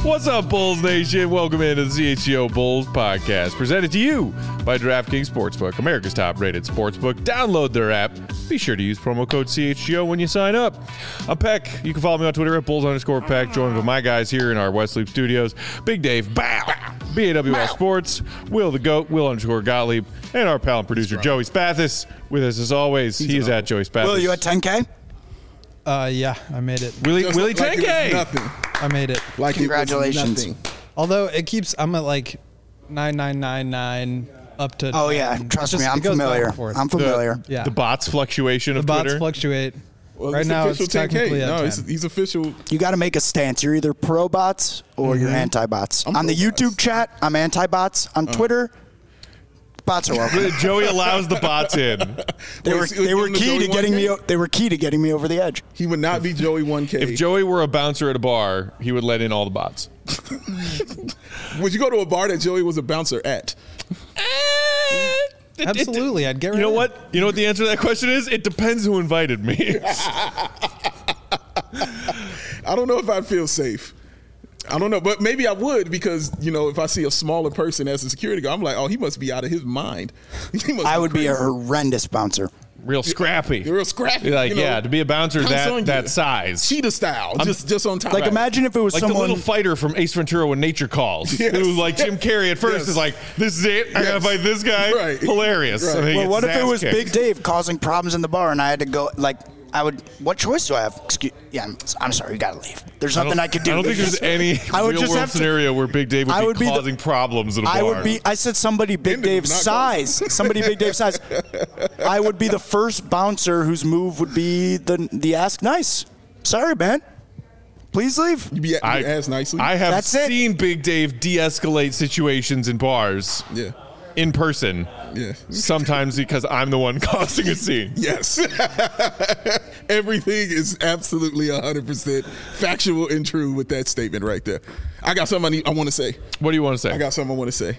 What's up, Bulls Nation? Welcome into the CHGO Bulls podcast, presented to you by DraftKings Sportsbook, America's top-rated sportsbook. Download their app. Be sure to use promo code CHGO when you sign up. I'm Peck. You can follow me on Twitter at Bulls_Peck. Joined with my guys here in our West Loop studios, Big Dave, BAWL Sports, Will the Goat, Will_Gottlieb, and our pal and producer, Joey Spathis. With us as always, he is at Joey Spathis. Will, you at 10K? Yeah, I made it. Willie Like 10K. nothing. I made it. Like Congratulations. It was nothing. Although I'm at like 9999 up to. Oh, yeah. 10. Trust It me, I'm it goes back familiar. and forth. I'm familiar. Yeah. The bots fluctuation The of bots Twitter. fluctuate. Well, Right now, it's official 10K. technically at No, 10. he's official. You got to make a stance. You're either pro bots or you're anti bots. I'm On the pro-bots. YouTube chat, I'm anti bots. On Twitter, bots are welcome. Joey allows the bots in. They were Give him the key Joey to getting 1K? me. They were key to getting me over the edge. He would not be Joey 1K. If Joey were a bouncer at a bar, he would let in all the bots. Would you go to a bar that Joey was a bouncer at? Absolutely, I'd get rid You know of what? You know what the answer to that question is? It depends who invited me. I don't know if I'd feel safe. I don't know, but maybe I would because, you know, if I see a smaller person as a security guard, I'm like, oh, he must be out of his mind. I would be a horrendous bouncer. Real scrappy. You're real scrappy. You're like, you know, yeah, to be a bouncer comes on that you. size. Cheetah style, just on top. Like, imagine if it was Like someone. the little fighter from Ace Ventura when Nature Calls. Yes. It was like Jim Carrey at first Yes. is like, this is it. I gotta Yes. fight this guy. Right. Hilarious. Right. And then he Well, gets what his if it ass was kicked. Big Dave causing problems in the bar and I had to go, like, what choice do I have? I'm sorry, you got to leave. There's nothing I could do. I don't think there's any I would real just world have to- scenario where Big Dave I would be would be the- causing problems in a bar. I said somebody Big Brendan Dave's was not going. size. Somebody Big Dave's size. I would be the first bouncer whose move would be the ask nice. Sorry, man. Please leave. You be asked nicely. I have That's it. seen Big Dave de-escalate situations in bars yeah. in person. Yeah. Sometimes because I'm the one causing a scene. Yes. Everything is absolutely 100% factual and true with that statement right there. I got something I want to say. What do you want to say? I got something I want to say.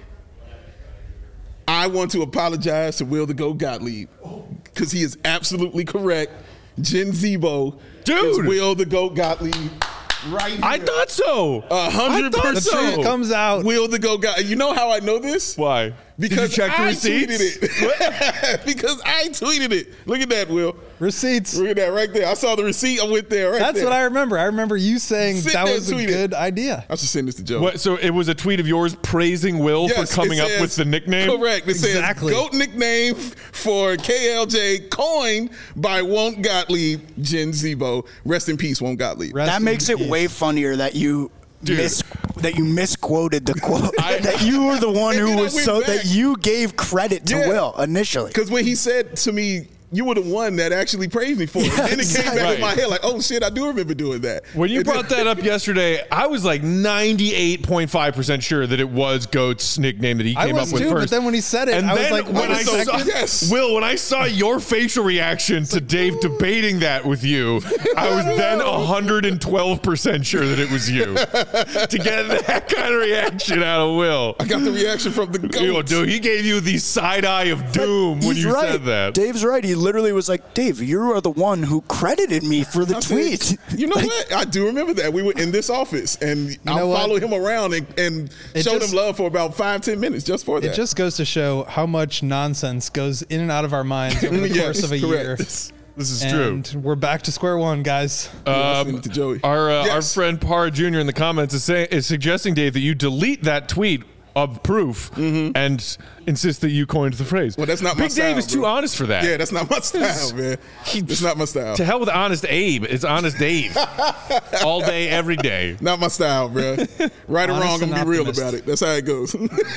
I want to apologize to Will the Go Gottlieb because he is absolutely correct. Jen Zebo is Dude. Will the Go Gottlieb right here. I thought so. 100%. The truth comes out. Will the Go Gottlieb. You know how I know this? Why? Because Did you check the I receipts? tweeted it. Because I tweeted it. Look at that, Will. Receipts. Look at that right there. I saw the receipt. I went there right That's there. what I remember. I remember you saying Sit that there was a and tweet good it. idea. I should send this to Joe. What? So it was a tweet of yours praising Will Yes, for coming it up says- with the nickname? Correct. It Exactly. says GOAT nickname for KLJ coined by Won't Gottlieb, Jen Zebo. Rest in peace, Won't Gottlieb. Rest That in makes it peace. way funnier that you Dude. misquoted the quote. That you were the one And who then I was went so back. that you gave credit to Yeah. Will initially. Because when he said to me, you were the one that actually praised me for it. Yeah, And then it came back exactly. in my head like, oh shit, I do remember doing that. When you And then- brought that up yesterday, I was like 98.5% sure that it was Goat's nickname that he I came up was with too, first. but then when he said it, and I was then like, when wait a I saw, second. Yes. Will, when I saw your facial reaction to Dave debating that with you, I was then 112% sure that it was you. To get that kind of reaction out of Will. I got the reaction from the GOAT. Yo, dude, he gave you the side eye of doom when He's you right. said that. Dave's right. He literally was like, Dave, you are the one who credited me for the I said, tweet. you know what? I do remember that. We were in this office, and I know what? followed him around and It showed just- him love for about 5-10 minutes just for that. It just goes to show how much nonsense goes in and out of our minds over the Yes, course of a correct. year. This is true. And we're back to square one, guys. Send it to Joey. Our Yes. friend Parra Jr. in the comments is suggesting, Dave, that you delete that tweet of proof and insist that you coined the phrase. Well, that's not my Big Dave style, is too bro. honest for that. Yeah, that's not my style, man. It's not my style. To hell with Honest Abe. It's Honest Dave. All day, every day. Not my style, bro. Right or Honest wrong, I'm and gonna be real optimist. about it. That's how it goes.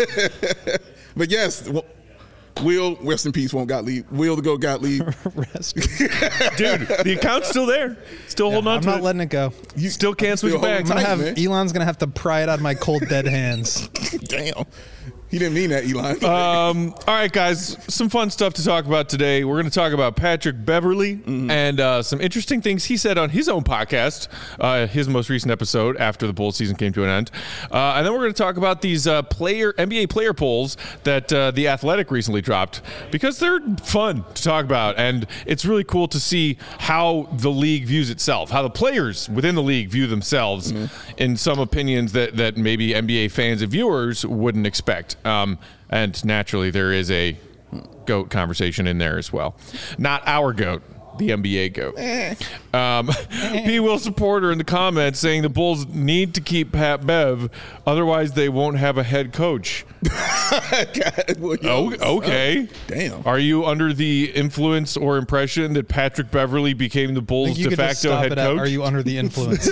But yes, Will, rest in peace, Won't Gottlieb. Will the Go Gottlieb. Rest. Dude, the account's still there. Still holding on I'm to not it. letting it go. You still can't switch still back. holding I'm gonna tight, have man. Elon's gonna have to pry it out of my cold dead hands. Damn. He didn't mean that, Elon. All right, guys, some fun stuff to talk about today. We're going to talk about Patrick Beverley and some interesting things he said on his own podcast, his most recent episode after the Bulls season came to an end. And then we're going to talk about these NBA player polls that The Athletic recently dropped because they're fun to talk about. And it's really cool to see how the league views itself, how the players within the league view themselves in some opinions that maybe NBA fans and viewers wouldn't expect. And naturally, there is a GOAT conversation in there as well. Not our GOAT, the NBA GOAT. P. Will supporter in the comments saying the Bulls need to keep Pat Bev, otherwise they won't have a head coach. God, well, Okay. Damn. Are you under the influence or impression that Patrick Beverley became the Bulls' de facto head coach? Are you under the influence?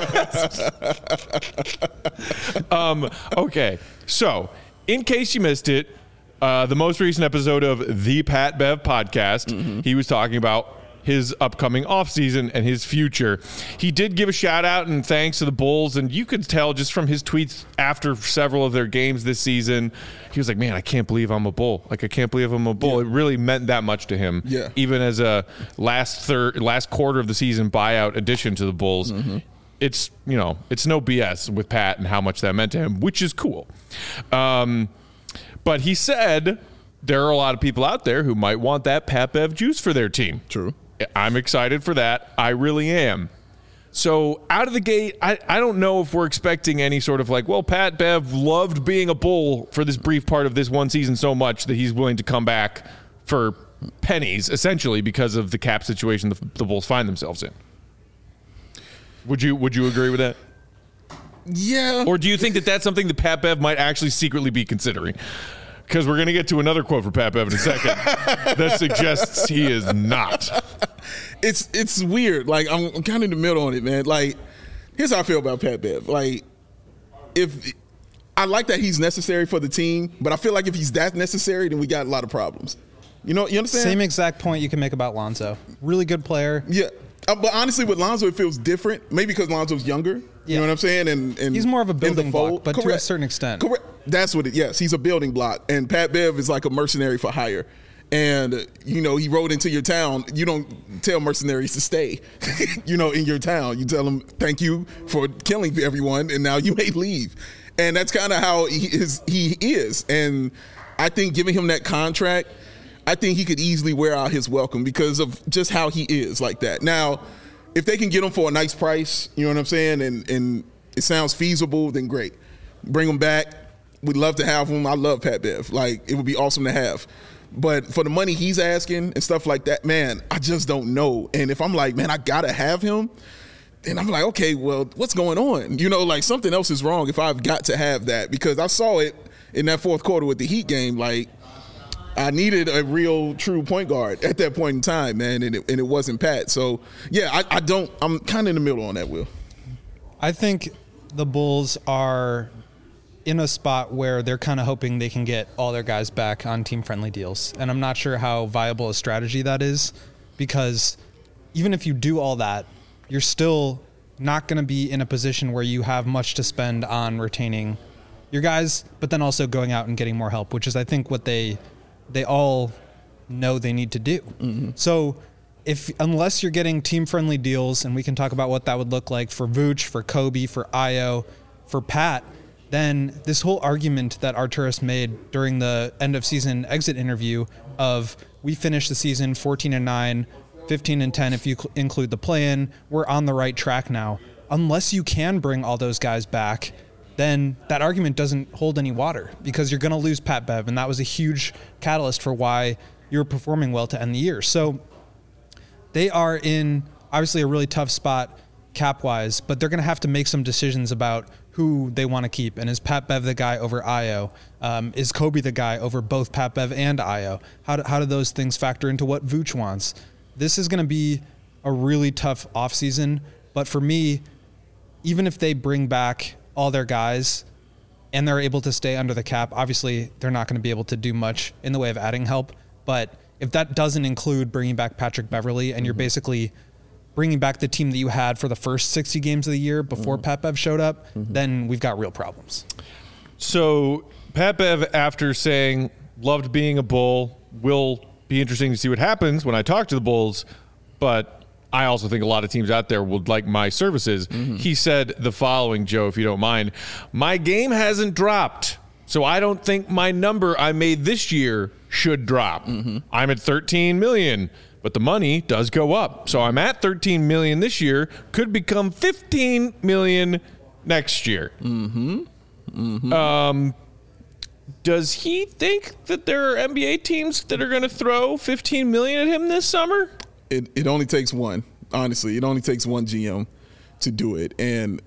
Okay. So, in case you missed it, the most recent episode of the Pat Bev podcast, he was talking about his upcoming offseason and his future. He did give a shout out and thanks to the Bulls, and you could tell just from his tweets after several of their games this season, he was like, man, I can't believe I'm a Bull. Like, I can't believe I'm a Bull. Yeah. It really meant that much to him. Yeah. Even as a last quarter of the season buyout addition to the Bulls. It's, it's no BS with Pat and how much that meant to him, which is cool. But he said there are a lot of people out there who might want that Pat Bev juice for their team. True. I'm excited for that. I really am. So out of the gate, I don't know if we're expecting any sort of like, well, Pat Bev loved being a Bull for this brief part of this one season so much that he's willing to come back for pennies, essentially, because of the cap situation the Bulls find themselves in. Would you agree with that? Yeah. Or do you think that that's something that Pat Bev might actually secretly be considering? Because we're going to get to another quote for Pat Bev in a second that suggests he is not. It's weird. Like, I'm kind of in the middle on it, man. Like, here's how I feel about Pat Bev. Like, if I like that he's necessary for the team, but I feel like if he's that necessary, then we got a lot of problems. You understand? Same exact point you can make about Lonzo. Really good player. Yeah. But honestly, with Lonzo, it feels different. Maybe because Lonzo's younger. You know what I'm saying? And he's more of a building block, but to a certain extent. Correct. That's what it. Yes, he's a building block, and Pat Bev is like a mercenary for hire. And he rode into your town. You don't tell mercenaries to stay. In your town, you tell them thank you for killing everyone, and now you may leave. And that's kind of how he is. And I think giving him that contract, I think he could easily wear out his welcome because of just how he is like that. Now, if they can get him for a nice price, you know what I'm saying, and it sounds feasible, then great. Bring him back. We'd love to have him. I love Pat Bev. Like, it would be awesome to have. But for the money he's asking and stuff like that, man, I just don't know. And if I'm like, man, I got to have him, then I'm like, okay, well, what's going on? Like something else is wrong if I've got to have that. Because I saw it in that fourth quarter with the Heat game, like, I needed a real, true point guard at that point in time, man, and it wasn't Pat. So, yeah, I'm kind of in the middle on that, Will. I think the Bulls are in a spot where they're kind of hoping they can get all their guys back on team-friendly deals. And I'm not sure how viable a strategy that is because even if you do all that, you're still not going to be in a position where you have much to spend on retaining your guys, but then also going out and getting more help, which is, I think, what they all know they need to do. So unless you're getting team-friendly deals, and we can talk about what that would look like for Vooch, for Kobe, for Ayo, for Pat, then this whole argument that Arturas made during the end-of-season exit interview of we finished the season 14-9, 15-10 if you include the play-in, we're on the right track now. Unless you can bring all those guys back, then that argument doesn't hold any water because you're going to lose Pat Bev, and that was a huge catalyst for why you were performing well to end the year. So they are in obviously a really tough spot cap-wise, but they're going to have to make some decisions about who they want to keep. And is Pat Bev the guy over Ayo? Is Kobe the guy over both Pat Bev and Ayo? How do those things factor into what Vooch wants? This is going to be a really tough offseason, but for me, even if they bring back all their guys and they're able to stay under the cap, obviously they're not going to be able to do much in the way of adding help. But if that doesn't include bringing back Patrick Beverley and you're basically bringing back the team that you had for the first 60 games of the year before Pat Bev showed up, then we've got real problems. So Pat Bev, after saying, loved being a Bull, will be interesting to see what happens when I talk to the Bulls, but I also think a lot of teams out there would like my services. He said the following, Joe, if you don't mind. My game hasn't dropped, so I don't think my number I made this year should drop. I'm at 13 million, but the money does go up. So I'm at 13 million this year, could become 15 million next year. Does he think that there are NBA teams that are going to throw 15 million at him this summer? It only takes one. Honestly, it only takes one GM to do it. And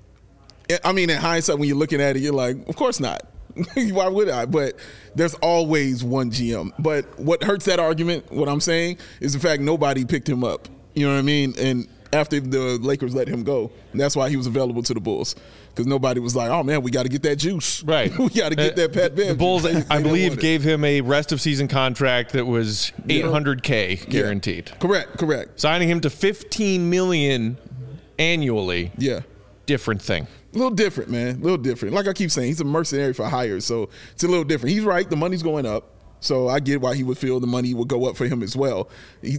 I mean, in hindsight, when you're looking at it, you're like, of course not. Why would I? But there's always one GM. But what hurts that argument, what I'm saying, is the fact nobody picked him up. You know what I mean? And after the Lakers let him go, and that's why he was available to the Bulls. Because nobody was like, oh, man, we got to get that juice. Right. We got to get that Pat Bev. The Bulls, I believe, gave him a rest-of-season contract that was $800K guaranteed. Yeah. Correct. Signing him to $15 million annually. Yeah. Different thing. A little different, man. A little different. Like I keep saying, he's a mercenary for hire, so it's a little different. He's right. The money's going up, so I get why he would feel the money would go up for him as well. He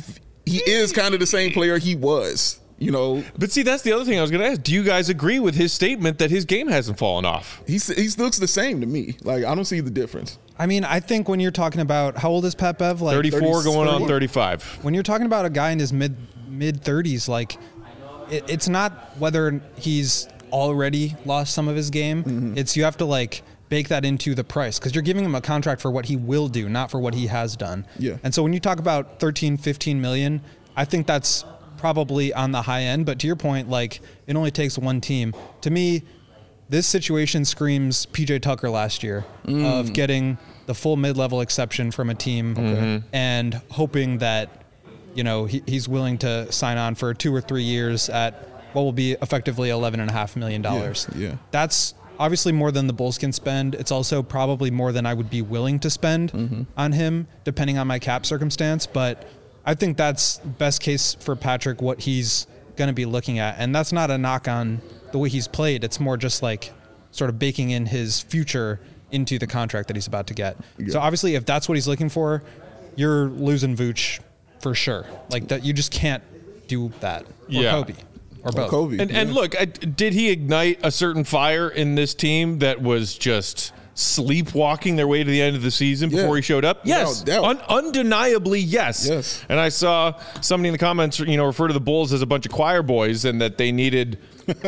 is kind of the same player he was. You know, but see, that's the other thing I was going to ask. Do you guys agree with his statement that his game hasn't fallen off? He looks the same to me. Like, I don't see the difference. I mean, I think when you're talking about, how old is Pat Bev? Like 34 going on 35. When you're talking about a guy in his mid 30s, like it's not whether he's already lost some of his game. It's you have to like bake that into the price because you're giving him a contract for what he will do, not for what he has done. Yeah. And so when you talk about 13, 15 million, I think that's probably on the high end, but to your point, like it only takes one team. To me, this situation screams PJ Tucker last year of getting the full mid-level exception from a team and hoping that, you know, he's willing to sign on for 2 or 3 years at what will be effectively $11.5 million. Yeah. That's obviously more than the Bulls can spend. It's also probably more than I would be willing to spend on him, depending on my cap circumstance, but I think that's best case for Patrick, what he's going to be looking at. And that's not a knock on the way he's played. It's more just like sort of baking in his future into the contract that he's about to get. Yeah. So obviously, if that's what he's looking for, you're losing Vooch for sure. Like that, you just can't do that. Or Kobe. Or both. Kobe. And look, did he ignite a certain fire in this team that was just sleepwalking their way to the end of the season before he showed up? Yes. Undeniably, yes. And I saw somebody in the comments, refer to the Bulls as a bunch of choir boys and that they needed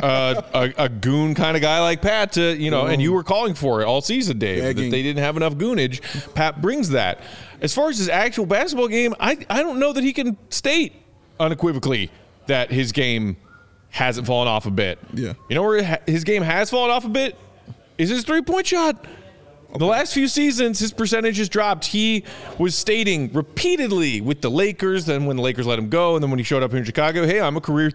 a goon kind of guy like Pat to, and you were calling for it all season, Dave, that they didn't have enough goonage. Pat brings that. As far as his actual basketball game, I don't know that he can state unequivocally that his game hasn't fallen off a bit. Yeah. You know where his game has fallen off a bit? Is his three-point shot. The last few seasons, his percentage has dropped. He was stating repeatedly with the Lakers, then when the Lakers let him go, and then when he showed up here in Chicago, hey, I'm a career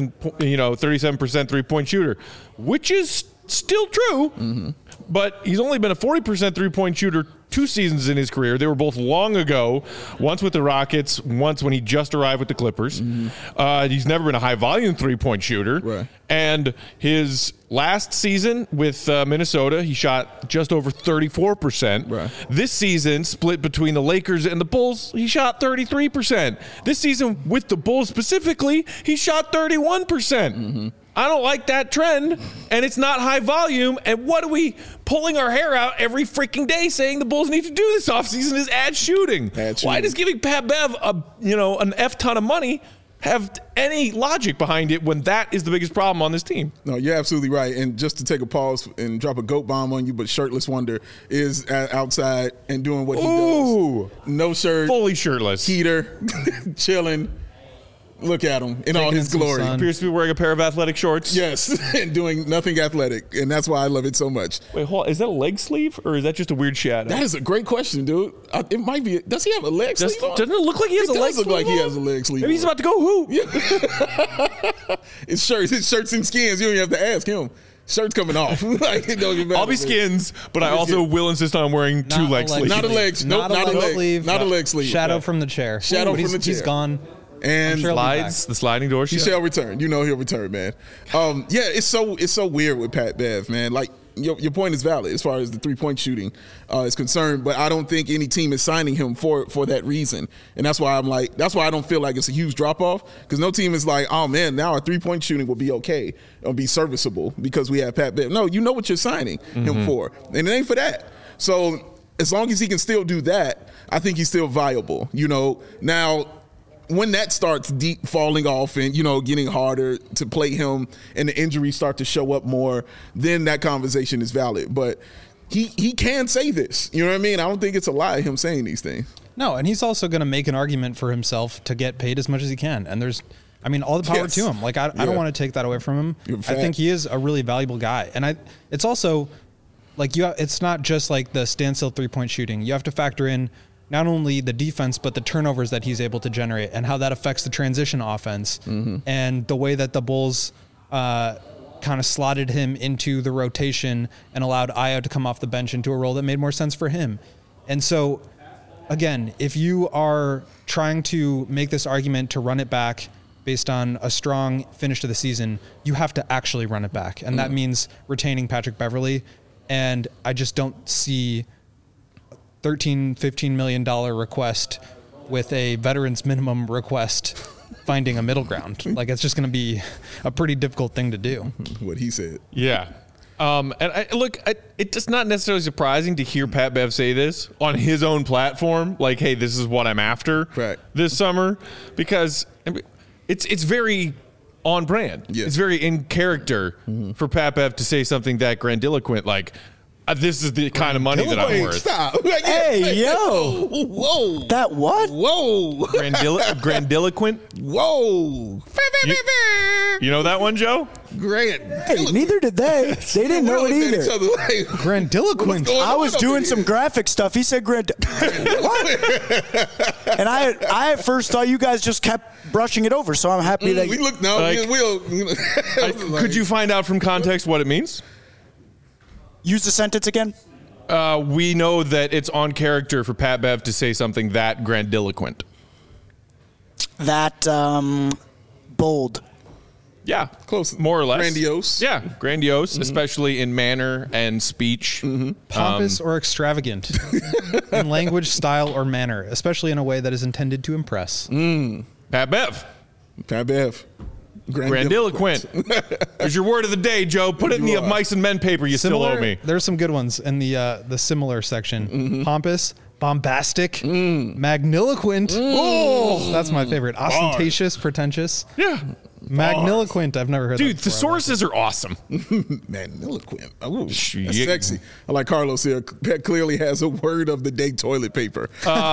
37% three-point shooter, which is still true, but he's only been a 40% three-point shooter 2 seasons in his career. They were both long ago, once with the Rockets, once when he just arrived with the Clippers. He's never been a high-volume three-point shooter. Right. And his last season with Minnesota, he shot just over 34%. Right. This season, split between the Lakers and the Bulls, he shot 33%. This season, with the Bulls specifically, he shot 31%. I don't like that trend, and it's not high volume. And what are we pulling our hair out every freaking day saying the Bulls need to do this offseason is add shooting? Why does giving Pat Bev an F ton of money have any logic behind it when that is the biggest problem on this team? No, you're absolutely right. And just to take a pause and drop a goat bomb on you, but Shirtless Wonder is outside and doing what he does. No shirt. Fully shirtless. Heater, chilling. Look at him in all his glory. He appears to be wearing a pair of athletic shorts. Yes, and doing nothing athletic. And that's why I love it so much. Wait, hold on. Is that a leg sleeve or is that just a weird shadow? That is a great question, dude. It might be. Does he have a leg sleeve on? Doesn't it look like he has a leg sleeve on? It does look like he has a leg sleeve Maybe he's about to go hoop. Yeah. It's shirts and skins. You don't even have to ask him. Shirt's coming off. I'll be skins, but I also will insist on wearing 2 leg sleeves. Not a leg sleeve. Nope, not a leg sleeve. Not a leg sleeve. Shadow from the chair. Shadow from the chair. He's gone. And the sliding door. He shall return. You know he'll return, man. It's so weird with Pat Bev, man. Like your point is valid as far as the 3-point shooting is concerned, but I don't think any team is signing him for that reason. And that's why that's why I don't feel like it's a huge drop off, because no team is like, oh man, now our 3-point shooting will be okay. It'll be serviceable because we have Pat Bev. No, you know what you're signing him for, and it ain't for that. So as long as he can still do that, I think he's still viable. Now, when that starts deep falling off and, getting harder to play him and the injuries start to show up more, then that conversation is valid. But he can say this. You know what I mean? I don't think it's a lie, him saying these things. No, and he's also going to make an argument for himself to get paid as much as he can. And all the power to him. Like, I don't want to take that away from him. I think he is a really valuable guy. And it's also, like, it's not just like the standstill 3-point shooting. You have to factor in not only the defense, but the turnovers that he's able to generate and how that affects the transition offense and the way that the Bulls kind of slotted him into the rotation and allowed Ayo to come off the bench into a role that made more sense for him. And so, again, if you are trying to make this argument to run it back based on a strong finish to the season, you have to actually run it back. And that means retaining Patrick Beverley. And I just don't see $13-15 million request with a veterans minimum request finding a middle ground. Like, it's just going to be a pretty difficult thing to do. What he said. Yeah. It's not necessarily surprising to hear Pat Bev say this on his own platform. Like, hey, this is what I'm after this summer, because it's very on brand. Yeah. It's very in character for Pat Bev to say something that grandiloquent, like, this is the kind of money that I'm worth. Stop. Hey, yo. Whoa. That what? Whoa. Grandiloquent? Whoa. You know that one, Joe? Hey, neither did they. They didn't know it either. Grandiloquent. I was doing some graphic stuff. He said what? And I at first thought you guys just kept brushing it over, so I'm happy that we look now. Could you find out from context what it means? Use the sentence again. We know that it's on character for Pat Bev to say something that grandiloquent. That bold. Yeah, close. More or less. Grandiose. Yeah, grandiose, especially in manner and speech. Pompous or extravagant in language, style, or manner, especially in a way that is intended to impress. Pat Bev. Pat Bev. Grandiloquent. There's your word of the day, Joe. Put it in the of mice and men paper you still owe me. There's some good ones in the similar section. Pompous, bombastic, magniloquent. Oh, that's my favorite. Ostentatious, pretentious. Yeah. Magniloquent. I've never heard that. Dude, the sources are awesome. Magniloquent. Oh, that's sexy. I like Carlos here. Pat clearly has a word of the day toilet paper.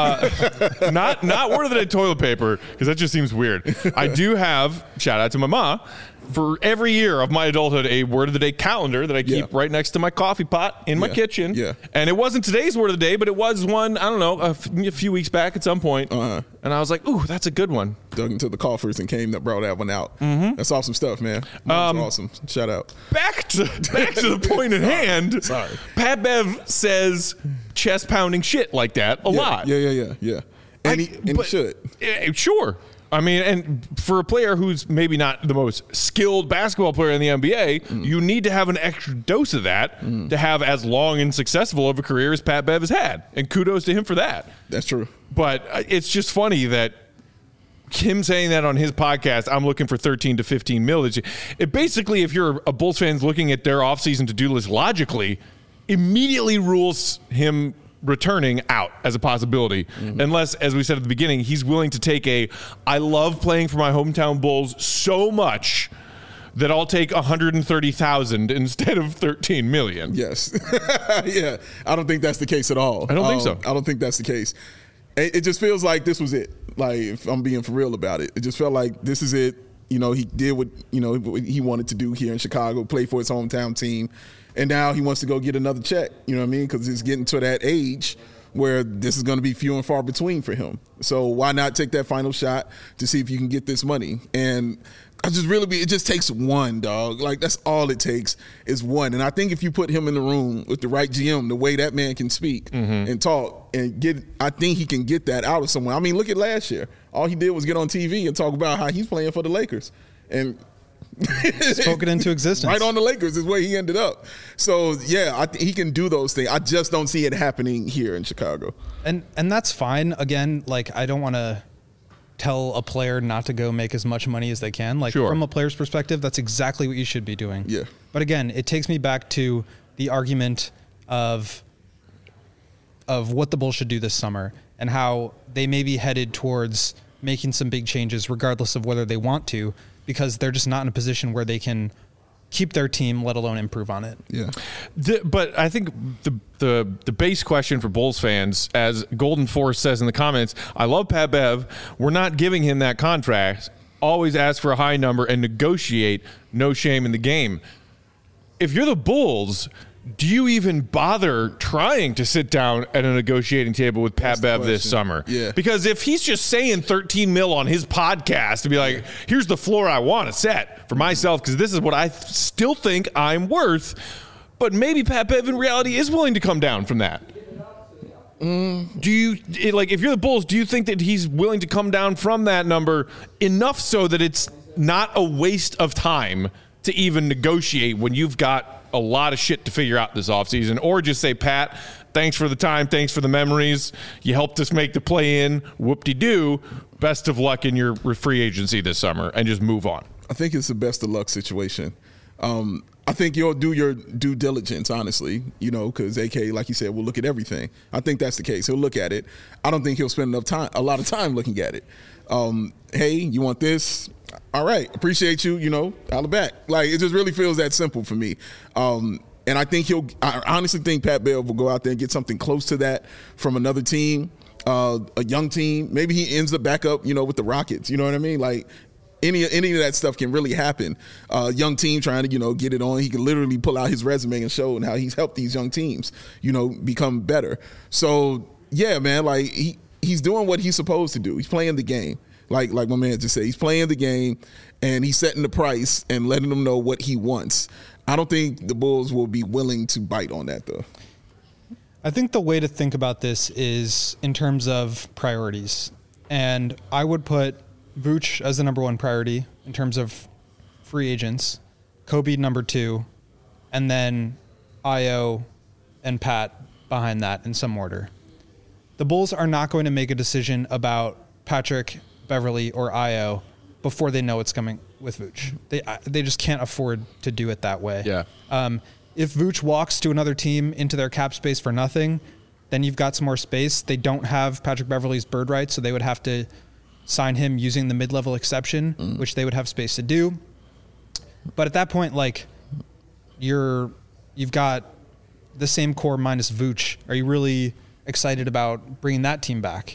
Not word of the day toilet paper, because that just seems weird. I do have, shout out to my ma, for every year of my adulthood, a word of the day calendar that I keep right next to my coffee pot in my kitchen. Yeah. And it wasn't today's word of the day, but it was one, I don't know, a few weeks back at some point. And I was like, ooh, that's a good one. Dug into the coffers and that brought that one out. That's awesome stuff, man. That's awesome. Shout out. Back to the point at hand. Sorry. Pat Bev says chest pounding shit like that a lot. Yeah. And he should. Sure. I mean, and for a player who's maybe not the most skilled basketball player in the NBA, you need to have an extra dose of that to have as long and successful of a career as Pat Bev has had. And kudos to him for that. That's true. But it's just funny that him saying that on his podcast, I'm looking for 13 to 15 mil. It basically, if you're a Bulls fan looking at their offseason to-do list logically, immediately rules him returning out as a possibility, unless, as we said at the beginning, he's willing to take I love playing for my hometown Bulls so much that I'll take 130,000 instead of 13 million. Yes. Yeah. I don't think that's the case at all. I don't think so. I don't think that's the case. It just feels like this was it. Like, if I'm being for real about it, it just felt like this is it. He did what, what he wanted to do here in Chicago, play for his hometown team. And now he wants to go get another check, you know what I mean? Because he's getting to that age where this is going to be few and far between for him. So why not take that final shot to see if you can get this money? And it just takes one, dog. Like, that's all it takes is one. And I think if you put him in the room with the right GM, the way that man can speak and talk and I think he can get that out of someone. I mean, look at last year. All he did was get on TV and talk about how he's playing for the Lakers. And Spoke it into existence. Right on the Lakers is where he ended up. So, yeah, he can do those things. I just don't see it happening here in Chicago. And that's fine. Again, like, I don't want to tell a player not to go make as much money as they can. Like, Sure. from a player's perspective, that's exactly what you should be doing. Yeah. But again, it takes me back to the argument of what the Bulls should do this summer and how they may be headed towards making some big changes regardless of whether they want to, because they're just not in a position where they can keep their team, let alone improve on it. Yeah. But I think the base question for Bulls fans, as Golden Force says in the comments, I love Pat Bev. We're not giving him that contract. Always ask for a high number and negotiate. No shame in the game. If you're the Bulls, do you even bother trying to sit down at a negotiating table with Pat Bev this summer? Yeah. Because if he's just saying 13 mil on his podcast to be like, here's the floor I want to set for myself because this is what I still think I'm worth, but maybe Pat Bev in reality is willing to come down from that. Do you, like, if you're the Bulls, do you think that he's willing to come down from that number enough so that it's not a waste of time to even negotiate when you've got a lot of shit to figure out this offseason? Or just say, Pat, thanks for the time, thanks for the memories, you helped us make the play-in, whoop-de-doo, best of luck in your free agency this summer, and just move on? I think it's the best of luck situation. I think you'll do your due diligence, honestly, because AK, like you said, will look at everything. I think that's the case. He'll look at it. I don't think he'll spend a lot of time looking at it. Hey, you want this? All right, appreciate you, holla back. Like, it just really feels that simple for me. And I honestly think Pat Bev will go out there and get something close to that from another team, a young team. Maybe he ends up back up, with the Rockets. You know what I mean? Like, any of that stuff can really happen. Young team trying to, get it on. He can literally pull out his resume and show how he's helped these young teams, become better. So, yeah, man, like, he's doing what he's supposed to do. He's playing the game. Like my man just said, he's playing the game, and he's setting the price and letting them know what he wants. I don't think the Bulls will be willing to bite on that, though. I think the way to think about this is in terms of priorities. And I would put Vooch as the number one priority in terms of free agents, Kobe number 2, and then Ayo and Pat behind that in some order. The Bulls are not going to make a decision about Patrick Beverley or Ayo before they know what's coming with Vooch. They just can't afford to do it that way. Yeah. If Vooch walks to another team into their cap space for nothing, then you've got some more space. They don't have Patrick Beverley's bird rights, so they would have to sign him using the mid-level exception, which they would have space to do. But at that point, like, you've got the same core minus Vooch. Are you really excited about bringing that team back?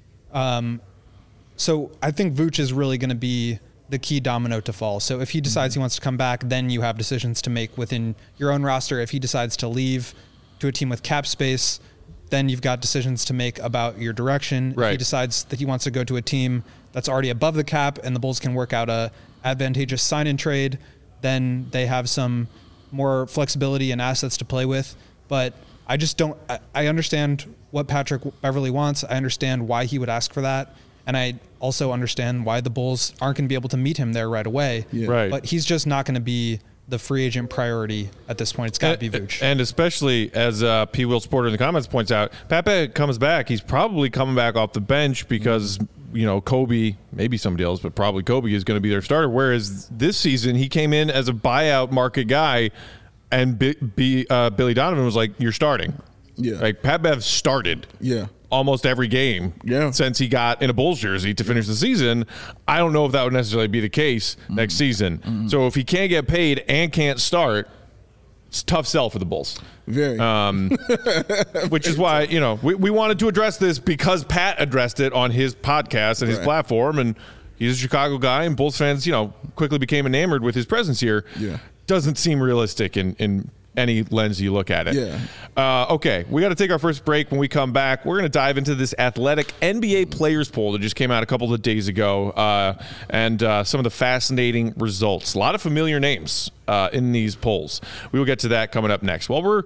So I think Vooch is really going to be the key domino to fall. So if he decides he wants to come back, then you have decisions to make within your own roster. If he decides to leave to a team with cap space, then you've got decisions to make about your direction. Right. If he decides that he wants to go to a team that's already above the cap and the Bulls can work out a advantageous sign-in trade, then they have some more flexibility and assets to play with. But I just don't – I understand what Patrick Beverley wants. I understand why he would ask for that. And I also understand why the Bulls aren't going to be able to meet him there right away. Yeah. Right. But he's just not going to be the free agent priority at this point. It's got to be Vooch. And especially, as P. Will Sporter in the comments points out, Pat comes back. He's probably coming back off the bench because, Kobe, maybe somebody else, but probably Kobe is going to be their starter. Whereas this season, he came in as a buyout market guy, and Billy Donovan was like, you're starting. Yeah. Like, Pat Bev started. Yeah. Almost every game since he got in a Bulls jersey to finish the season. I don't know if that would necessarily be the case next season. So if he can't get paid and can't start, it's a tough sell for the Bulls. Very. Which is why, we wanted to address this because Pat addressed it on his podcast and his platform, and he's a Chicago guy, and Bulls fans, quickly became enamored with his presence here. Yeah. Doesn't seem realistic in any lens you look at it. Yeah. Okay, we got to take our first break. When we come back, we're going to dive into this Athletic NBA players poll that just came out a couple of days ago, and some of the fascinating results. A lot of familiar names in these polls. We will get to that coming up next. While we're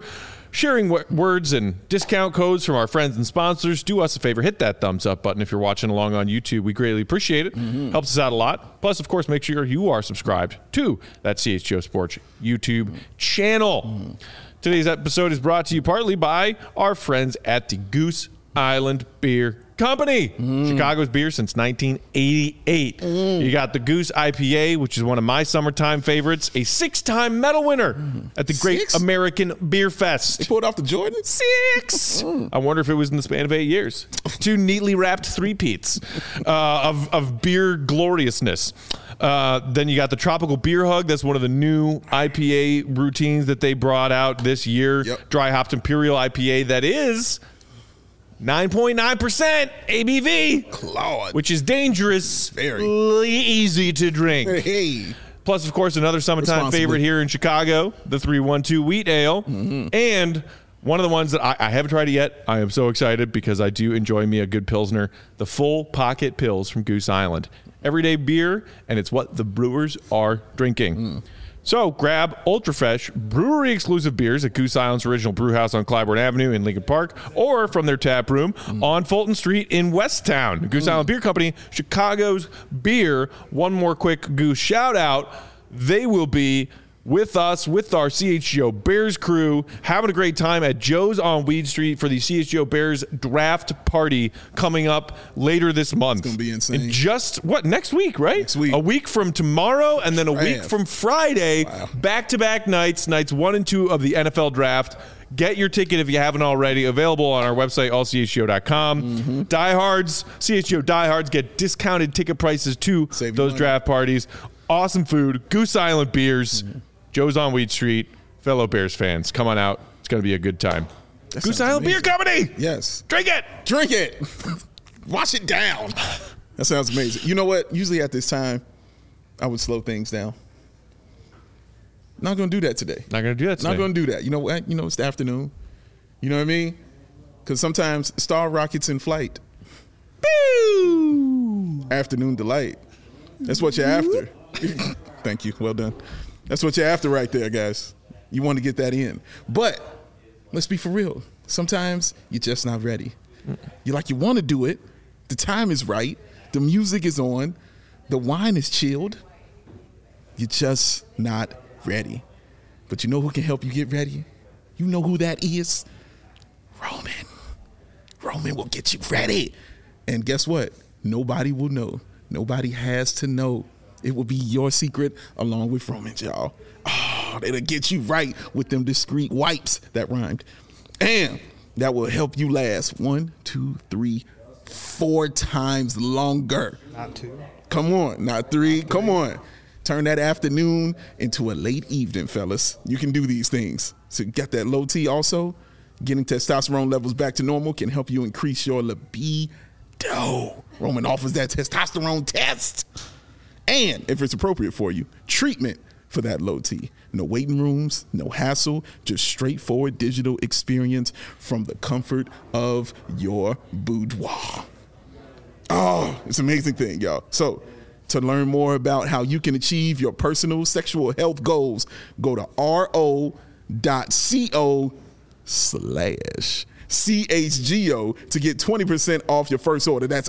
sharing words and discount codes from our friends and sponsors. Do us a favor, hit that thumbs up button if you're watching along on YouTube. We greatly appreciate it. Helps us out a lot. Plus, of course, make sure you are subscribed to that CHGO Sports YouTube channel. Today's episode is brought to you partly by our friends at the Goose Island Beer Company. Chicago's beer since 1988. You got the Goose IPA, which is one of my summertime favorites, a 6-time medal winner at the Great American Beer Fest. They pulled off the Jordan? 6. I wonder if it was in the span of 8 years. 2 neatly wrapped three-peats of beer gloriousness. Then you got the Tropical Beer Hug. That's one of the new IPA routines that they brought out this year. Dry hopped Imperial IPA that is 9.9% ABV, Claude. which is dangerous, Very easy to drink. Hey. Plus, of course, another summertime favorite here in Chicago, the 312 Wheat Ale. And one of the ones that I haven't tried it yet. I am so excited because I do enjoy me a good Pilsner, the Full Pocket Pils from Goose Island. Everyday beer, and it's what the brewers are drinking. So grab Ultra Fresh brewery exclusive beers at Goose Island's original brew house on Clybourne Avenue in Lincoln Park, or from their tap room on Fulton Street in Westtown. Goose Island Beer Company, Chicago's beer. One more quick Goose shout out. They will be with us, with our CHGO Bears crew, having a great time at Joe's on Weed Street for the CHGO Bears draft party coming up later this month. It's going to be insane. In just, next week, right? Next week. A week from tomorrow, and then a week from Friday, back-to-back nights 1 and 2 of the NFL draft. Get your ticket if you haven't already. Available on our website, allchgo.com. Diehards, CHGO Diehards get discounted ticket prices to those draft parties. Awesome food, Goose Island beers, Joe's on Weed Street. Fellow Bears fans, come on out. It's going to be a good time. Goose Island Beer Company. Yes. Drink it. Drink it. Wash it down. That sounds amazing. You know what? Usually at this time, I would slow things down. Not going to do that today. Not going to do that today. Not going to do that. You know what? You know, it's the afternoon. You know what I mean? Because sometimes Star Rocket's in flight. Boo! Afternoon delight. That's what you're after. Thank you. Well done. That's what you're after right there, guys. You want to get that in. But let's be for real. Sometimes you're just not ready. You want to do it. The time is right. The music is on. The wine is chilled. You're just not ready. But you know who can help you get ready? You know who that is? Roman. Roman will get you ready. And guess what? Nobody will know. Nobody has to know. It will be your secret along with Roman's, y'all. Oh, it'll get you right with them discreet wipes that rhymed. And that will help you last 1, 2, 3, 4 times longer. Not 2. Come on, not 3. Come on. Turn that afternoon into a late evening, fellas. You can do these things. So you got that low T also. Getting testosterone levels back to normal can help you increase your libido. Roman offers that testosterone test. And if it's appropriate for you, treatment for that low T. No waiting rooms, no hassle, just straightforward digital experience from the comfort of your boudoir. Oh, it's an amazing thing, y'all. So to learn more about how you can achieve your personal sexual health goals, go to ro.co/CHGO to get 20% off your first order. That's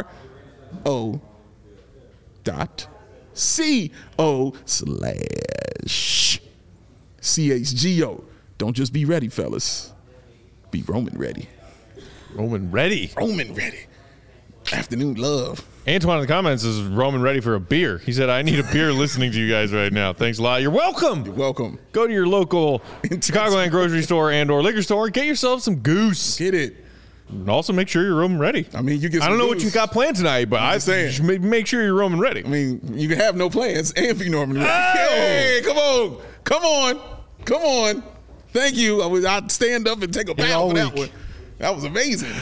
ro.co/CHGO. Don't just be ready, fellas. Be Roman ready. Roman ready. Roman ready. Afternoon love. Antoine in the comments is Roman ready for a beer. He said, I need a beer listening to you guys right now. Thanks a lot. You're welcome. You're welcome. Go to your local Chicagoland grocery store and or liquor store. Get yourself some Goose. Get it. And also make sure you're Roman ready. I mean, you get. I don't know Goose. what you got planned tonight, but I say make sure you're Roman ready. I mean, you can have no plans and be Roman ready. Oh! Hey, come on. Come on. Come on. Thank you. I'd stand up and take a bow for that one. That was amazing.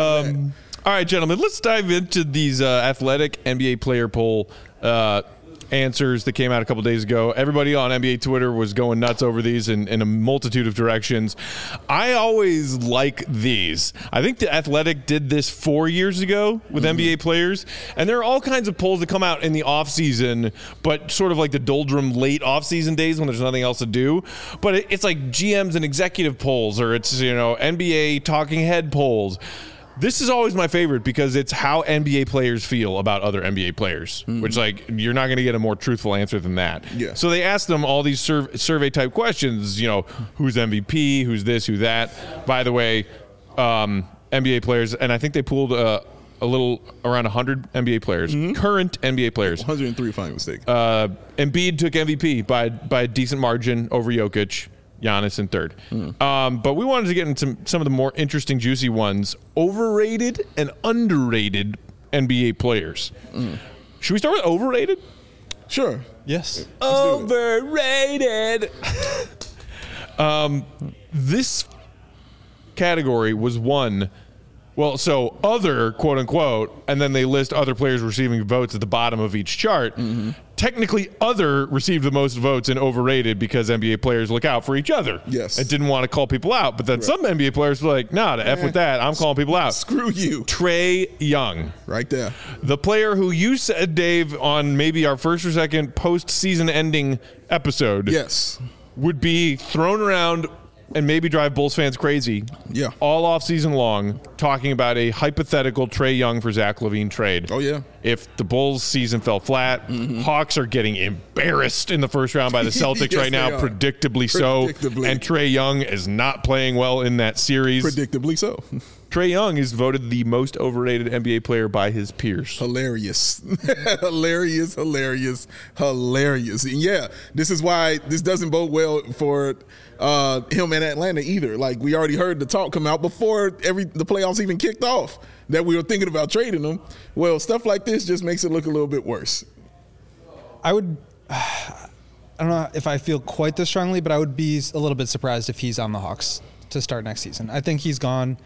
All right, gentlemen, let's dive into these athletic NBA player poll answers that came out a couple days ago. Everybody on NBA Twitter was going nuts over these in a multitude of directions. I always like these. I think The Athletic did this 4 years ago with NBA players, and there are all kinds of polls that come out in the offseason, but sort of like the doldrum late offseason days when there's nothing else to do. But it's like GMs and executive polls, or it's, you know, NBA talking head polls. This is always my favorite because it's how NBA players feel about other NBA players, which, like, you're not going to get a more truthful answer than that. Yeah. So they asked them all these survey type questions, you know, who's MVP, who's this, who that. By the way, NBA players, and I think they pulled a little around 100 NBA players, current NBA players. 103, if I'm not mistaken. Embiid took MVP by a decent margin over Jokic. Giannis in third. But we wanted to get into some of the more interesting, juicy ones. Overrated and underrated NBA players. Should we start with overrated? Sure. Yes. Overrated. This category was one. Well, so other, quote unquote, and then they list other players receiving votes at the bottom of each chart. Technically, other received the most votes in overrated because NBA players look out for each other. Yes. And didn't want to call people out. But then some NBA players were like, nah, to F with that. I'm calling people out. Screw you. Trae Young. Right there. The player who you said, Dave, on maybe our first or second postseason ending episode. Yes. Would be thrown around and maybe drive Bulls fans crazy all off season long, talking about a hypothetical Trae Young for Zach LaVine trade. Oh, yeah. If the Bulls season fell flat, Hawks are getting embarrassed in the first round by the Celtics Yes, right now, they are. predictably so. And Trae Young is not playing well in that series. Predictably so. Trae Young is voted the most overrated NBA player by his peers. Hilarious. hilarious. And yeah, this is why this doesn't bode well for him in Atlanta either. Like, we already heard the talk come out before the playoffs even kicked off that we were thinking about trading him. Well, stuff like this just makes it look a little bit worse. I don't know if I feel quite this strongly, but I would be a little bit surprised if he's on the Hawks to start next season. I think he's gone.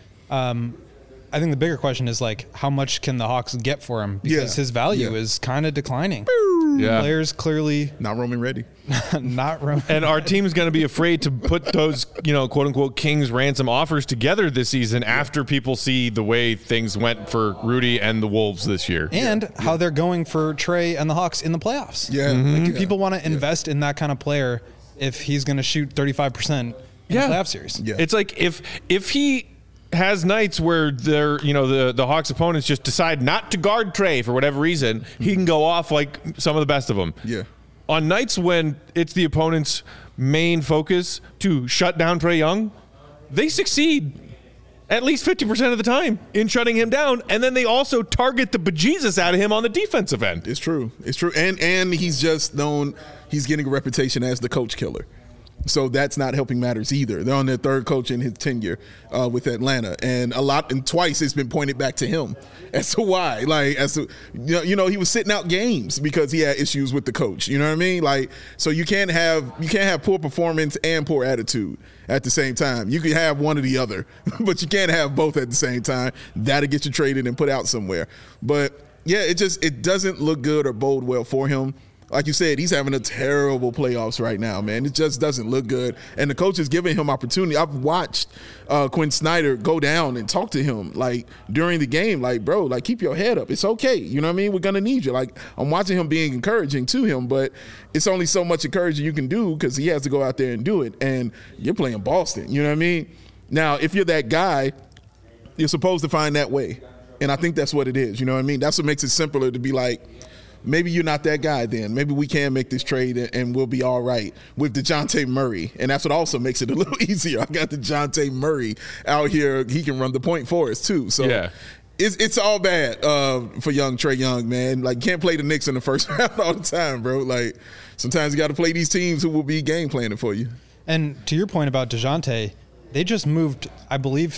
I think the bigger question is, like, how much can the Hawks get for him? Because his value is kind of declining. Yeah. Players clearly not Roman ready. Not Roman. And our team's going to be afraid to put those, you know, quote unquote Kings ransom offers together this season after people see the way things went for Rudy and the Wolves this year. And how they're going for Trae and the Hawks in the playoffs. Yeah. Like, do people want to invest in that kind of player if he's going to shoot 35% in the playoff series? Yeah. It's like if he has nights where they're, you know, the Hawks opponents just decide not to guard Trae for whatever reason, he can go off like some of the best of them. Yeah. On nights when it's the opponent's main focus to shut down Trae Young, they succeed at least 50% of the time in shutting him down, and then they also target the bejesus out of him on the defensive end. It's true. And he's just known, he's getting a reputation as the coach killer. So that's not helping matters either. They're on their third coach in his tenure with Atlanta, and twice it's been pointed back to him as to why. Like, you know, he was sitting out games because he had issues with the coach. You know what I mean? Like, so you can't have poor performance and poor attitude at the same time. You can have one or the other, but you can't have both at the same time. That'll get you traded and put out somewhere. But yeah, it doesn't look good or bode well for him. Like you said, he's having a terrible playoffs right now, man. It just doesn't look good. And the coach is giving him opportunity. I've watched Quinn Snyder go down and talk to him, like, during the game, like, bro, like, keep your head up. It's okay. You know what I mean? We're going to need you. Like, I'm watching him being encouraging to him, but it's only so much encouraging you can do because he has to go out there and do it. And you're playing Boston. You know what I mean? Now, if you're that guy, you're supposed to find that way. And I think that's what it is. You know what I mean? That's what makes it simpler to be like, maybe you're not that guy then. Maybe we can make this trade and we'll be all right with DeJounte Murray. And that's what also makes it a little easier. I got DeJounte Murray out here. He can run the point for us too. So it's all bad for young Trae Young, man. Like, can't play the Knicks in the first round all the time, bro. Like, sometimes you got to play these teams who will be game planning for you. And to your point about DeJounte, they just moved, I believe,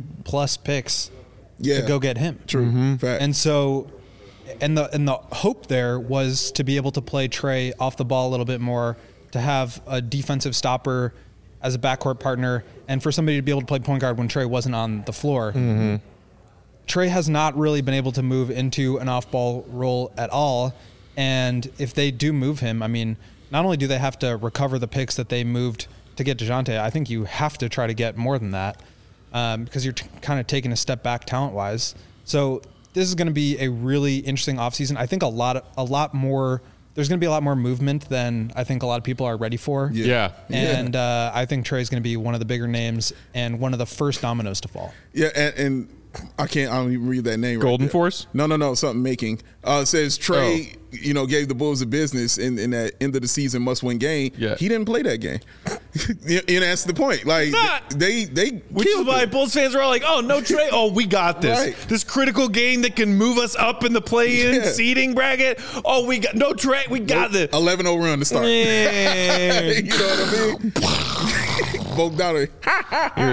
3+ picks to go get him. True. Fact. And so... And the hope there was to be able to play Trae off the ball a little bit more, to have a defensive stopper as a backcourt partner, and for somebody to be able to play point guard when Trae wasn't on the floor. Trae has not really been able to move into an off-ball role at all, And if they do move him, I mean, not only do they have to recover the picks that they moved to get DeJounte, I think you have to try to get more than that because you're kind of taking a step back talent-wise. So this is going to be a really interesting offseason. I think there's going to be a lot more movement than I think a lot of people are ready for. Yeah. And I think Trey's going to be one of the bigger names and one of the first dominoes to fall. Yeah, and I don't even read that name. Golden right Force? No, something making. It says Trey, gave the Bulls the business in that end of the season must-win game. Yeah. He didn't play that game. And that's the point. Like they Which is why Bulls fans are all like, "Oh, no Trey! Oh, we got this. Right. This critical game that can move us up in the play-in seeding bracket. Oh, we got no Trey. We got this. 11-0 run to start. You know what I mean? Bogdanovich. You're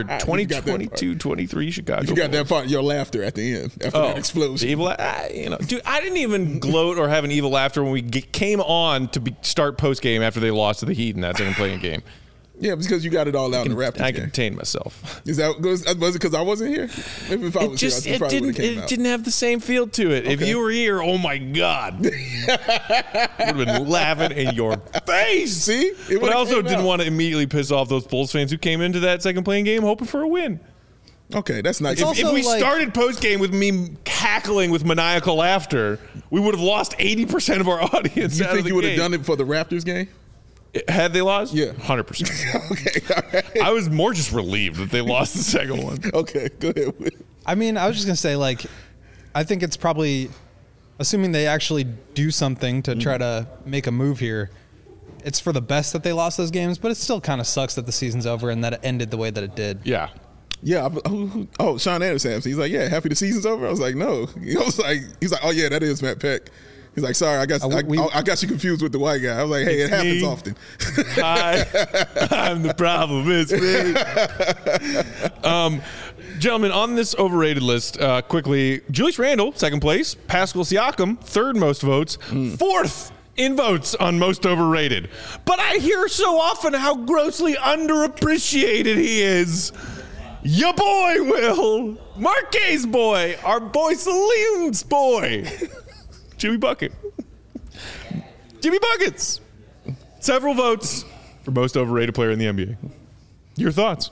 22-23 Chicago. You got that part, your laughter at the end after that explosion. The evil, dude, I didn't even gloat or have an evil laughter when we came on to start post game after they lost to the Heat in that second playing game. Yeah, because you got it all out in the Raptors I game. contained myself. Was it because I wasn't here? Maybe if I was here, I probably would have came out. It didn't have the same feel to it. If you were here, oh my God, would have been laughing in your face. See, but I also didn't want to immediately piss off those Bulls fans who came into that second playing game hoping for a win. Okay, that's nice. If we started post game with me cackling with maniacal laughter, we would have lost 80% of our audience. You think you would have done it for the Raptors game? Had they lost? Yeah. 100%. Okay, all right. I was more just relieved that they lost the second one. Okay, go ahead. I mean, I was just going to say, I think it's probably, assuming they actually do something to try to make a move here, it's for the best that they lost those games, but it still kind of sucks that the season's over and that it ended the way that it did. Yeah. Yeah. Sean Anderson. He's like, yeah, happy the season's over? I was like, no. He's like, oh, yeah, that is Matt Peck. He's like, sorry, I got you confused with the white guy. I was like, hey, it happens often. Hi, I'm the problem. It's me. Gentlemen, on this overrated list, quickly, Julius Randle, second place. Pascal Siakam, third most votes. Fourth in votes on most overrated. But I hear so often how grossly underappreciated he is. Your boy, Will. Marquez boy. Our boy Salim's boy. Jimmy Bucket. Jimmy Buckets. Several votes for most overrated player in the NBA. Your thoughts?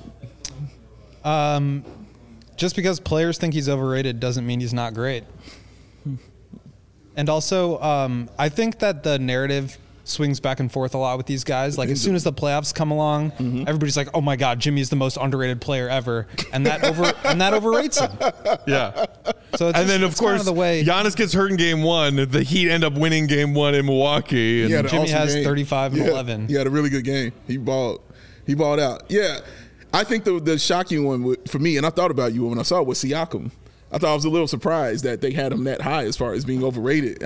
Just because players think he's overrated doesn't mean he's not great. And also, I think that the narrative swings back and forth a lot with these guys. Like, as soon as the playoffs come along, everybody's like, oh my God, Jimmy's the most underrated player ever. And that overrates him. Yeah. So it's and then, of course, the way Giannis gets hurt in game one. The Heat end up winning game one in Milwaukee. And Yeah, Jimmy has game. 35 and 11. He had a really good game. He balled out. Yeah. I think the shocking one for me, and I thought about you when I saw it, was Siakam. I thought I was a little surprised that they had him that high as far as being overrated.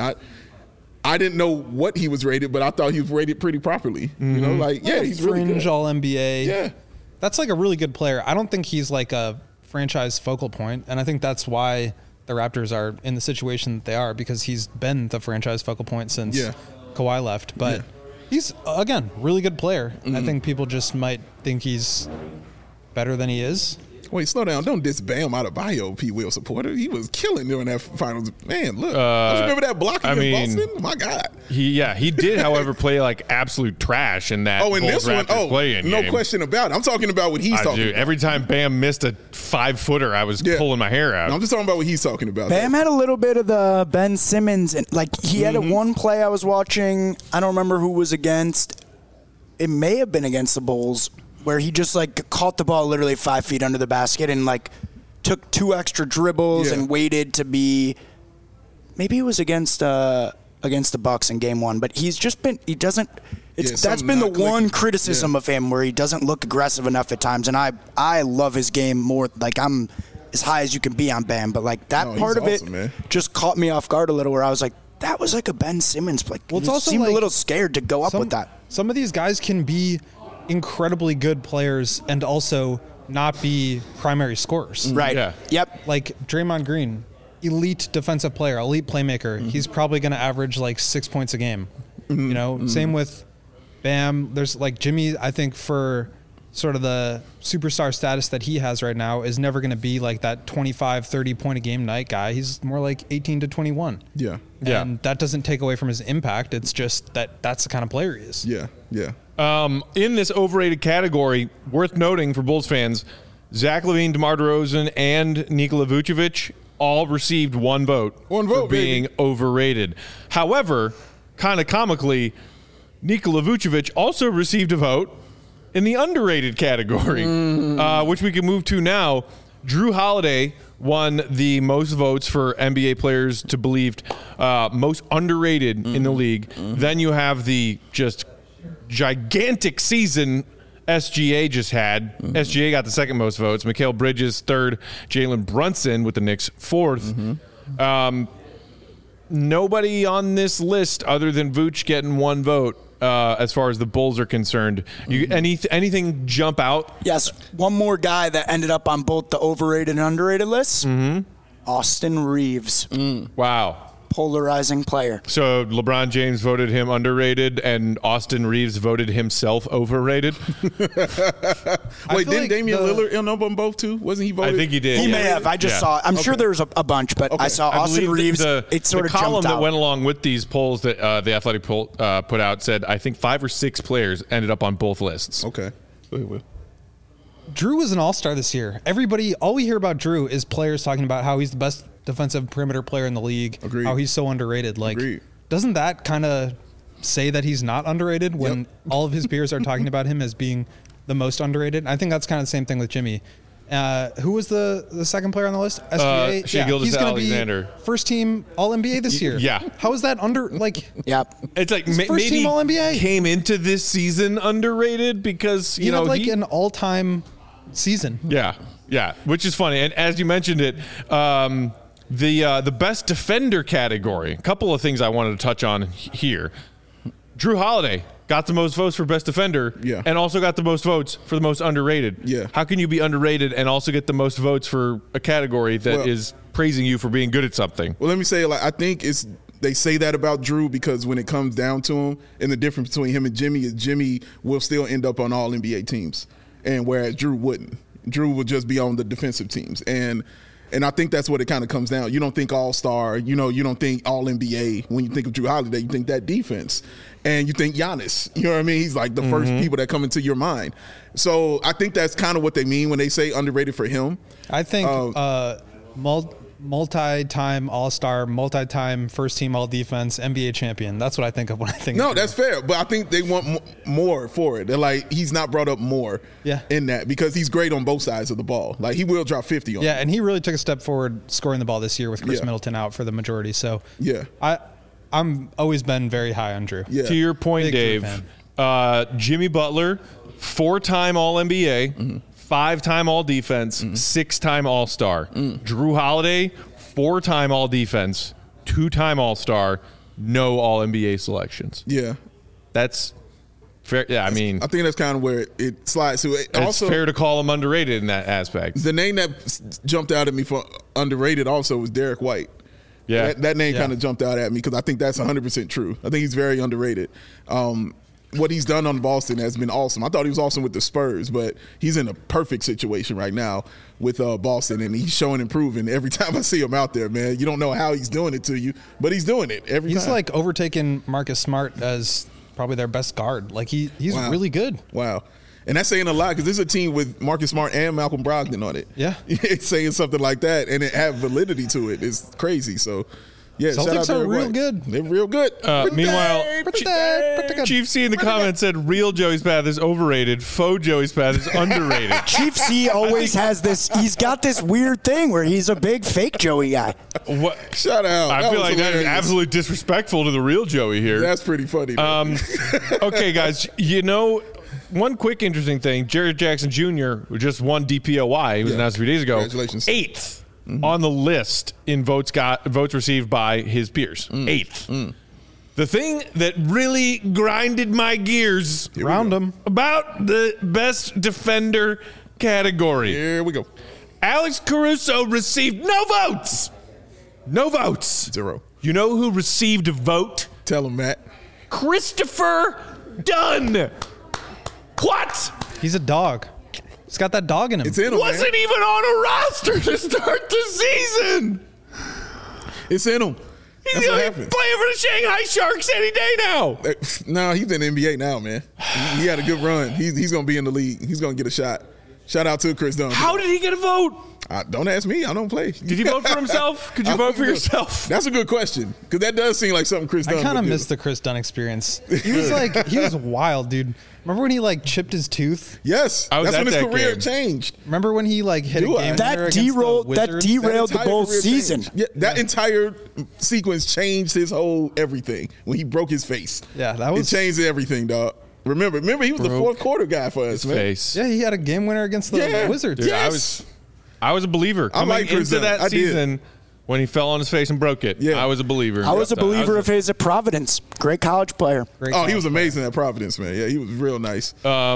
I didn't know what he was rated, but I thought he was rated pretty properly. You know, he's really fringe good. all NBA. Yeah. That's like a really good player. I don't think he's like a franchise focal point, and I think that's why the Raptors are in the situation that they are, because he's been the franchise focal point since Kawhi left. But he's, again, really good player. I think people just might think he's better than he is. Wait, slow down. Don't diss Bam Adebayo, P. Will supporter. He was killing during that finals. Man, look. Don't you remember that block against Boston? My God. He did, however, play like absolute trash in that in this one? play-in No game. question about it. I'm talking about what he's talking about. Every time Bam missed a 5-footer, I was pulling my hair out. No, I'm just talking about what he's talking about. Bam had a little bit of the Ben Simmons. He had one play I was watching. I don't remember who was against. It may have been against the Bulls, where he just caught the ball literally 5 feet under the basket and took 2 extra dribbles and waited to be. Maybe it was against the Bucks in game one, but he's just been. He doesn't. That's been the one criticism of him, where he doesn't look aggressive enough at times, and I love his game more. I'm as high as you can be on Bam, but that part of awesome, it man. just caught me off guard a little, where I was like, that was like a Ben Simmons play. Well, it's he also seemed a little scared to go up with that. Some of these guys can be incredibly good players and also not be primary scorers. Right. Yeah. Yep. Like Draymond Green, elite defensive player, elite playmaker. He's probably going to average 6 points a game. Same with Bam. There's Jimmy, I think for sort of the superstar status that he has right now is never going to be like that 25, 30 point a game night guy. He's more like 18 to 21. Yeah. And that doesn't take away from his impact. It's just that's the kind of player he is. Yeah. In this overrated category, worth noting for Bulls fans, Zach LaVine, DeMar DeRozan, and Nikola Vucevic all received one vote for being overrated. However, kind of comically, Nikola Vucevic also received a vote in the underrated category, which we can move to now. Drew Holiday won the most votes for NBA players to believed most underrated in the league. Then you have the just gigantic season SGA just had. SGA got the second most votes. Mikal Bridges third. Jalen Brunson with the Knicks fourth. Nobody on this list other than Vooch getting one vote as far as the Bulls are concerned. Anything jump out? Yes. One more guy that ended up on both the overrated and underrated lists. Austin Reeves. Wow. Polarizing player. So LeBron James voted him underrated, and Austin Reeves voted himself overrated. Wait, didn't Damian Lillard end up on both too? Wasn't he voted? I think he did. He may have. I just saw. I'm sure there's a bunch, but I saw Austin Reeves. It sort of column jumped out. that went along with these polls that the Athletic poll put out said I think 5 or 6 players ended up on both lists. Okay. Drew was an all-star this year. All we hear about Drew is players talking about how he's the best defensive perimeter player in the league. Agreed. How he's so underrated. Agreed. Doesn't that kind of say that he's not underrated when all of his peers are talking about him as being the most underrated? I think that's kind of the same thing with Jimmy. Who was the second player on the list? SGA? Shai Gilgeous-Alexander. Be first team All-NBA this year. Yeah. How is that It's like first maybe team All-NBA. Came into this season underrated because you know an all-time season. Yeah, which is funny. And as you mentioned it, the best defender category, a couple of things I wanted to touch on here. Drew Holiday got the most votes for best defender and also got the most votes for the most underrated. Yeah. How can you be underrated and also get the most votes for a category that is praising you for being good at something? Well, let me say, I think they say that about Drew because when it comes down to him, and the difference between him and Jimmy is Jimmy will still end up on all NBA teams, and whereas Drew wouldn't. Drew would just be on the defensive teams, and I think that's what it kind of comes down. You don't think All-Star, you don't think All-NBA. When you think of Drew Holiday, you think that defense, and you think Giannis. You know what I mean? He's like the first people that come into your mind. So I think that's kind of what they mean when they say underrated for him. I think multi-time All-Star, multi-time first-team All-Defense, NBA champion. That's what I think of when I think of Drew. That's fair, but I think they want more for it. They're like, he's not brought up more in that because he's great on both sides of the ball. Like, he will drop 50 on and he really took a step forward scoring the ball this year with Chris Middleton out for the majority. So, I'm always been very high on Drew. To your point, Big Dave, Jimmy Butler, 4-time All-NBA, 5-time All-Defense, 6-time All-Star. Drew Holiday, 4-time All-Defense, 2-time All-Star, no All-NBA selections. Yeah. That's fair. Yeah, I mean, I think that's kind of where it slides to. It's also fair to call him underrated in that aspect. The name that jumped out at me for underrated also was Derek White. Yeah. That name kind of jumped out at me because I think that's 100% true. I think he's very underrated. What he's done on Boston has been awesome. I thought he was awesome with the Spurs, but he's in a perfect situation right now with Boston, and he's showing improving every time I see him out there, man. You don't know how he's doing it to you, but he's doing it every time. He's like overtaken Marcus Smart as probably their best guard. Like he's really good. Wow. And that's saying a lot because this is a team with Marcus Smart and Malcolm Brogdon on it. Yeah. It's saying something like that, and it have validity to it. It's crazy. So, yeah, Celtics are real good. They're real good. Meanwhile, Chief C in the comments said real Joey Spath is overrated. Faux Joey Spath is underrated. Chief C always has this. He's got this weird thing where he's a big fake Joey guy. What? Shut out. I feel like that is absolutely disrespectful to the real Joey here. That's pretty funny. Okay, guys, one quick interesting thing. Jared Jackson Jr. just won DPOY. He was announced a few days ago. Congratulations. 8th on the list in votes received by his peers. 8th. The thing that really grinded my gears about the best defender category. Here we go. Alex Caruso received no votes. No votes. 0. You know who received a vote? Tell him, Matt. Christopher Dunn. What? He's a dog. He's got that dog in him. It's in him, Wasn't man. even on a roster to start the season. It's in him. He's That's what playing happens. for the Shanghai Sharks any day now. No, he's in the NBA now, man. He had a good run. He's going to be in the league. He's going to get a shot. Shout out to Chris Dunn. How did he get a vote? Don't ask me. I don't play. Did he vote for himself? Could you vote for yourself? That's a good question because that does seem like something Chris Dunn I kind of would do. miss the Chris Dunn experience. He was wild, dude. Remember when he chipped his tooth? Yes, I was that's at when his that career game. changed. Rememed when he hit a Do I? game That winner against the derailed Wizards? the Entire Bulls career season. changed. Yeah, that entire sequence changed his whole everything when he broke his face. Yeah, that was- it changed everything, dog. Remember, he was the Broke fourth quarter guy for us, His man. face. Yeah, he had a game winner against the Yeah. Wizards. Dude, Yes. I was a believer I coming like Chris into Dunn. that I did. season when he fell on his face and broke it. Yeah. I was a believer. I was a believer of his at Providence. Great college player. Great Oh, he call. was amazing at Providence, man. Yeah, he was real nice.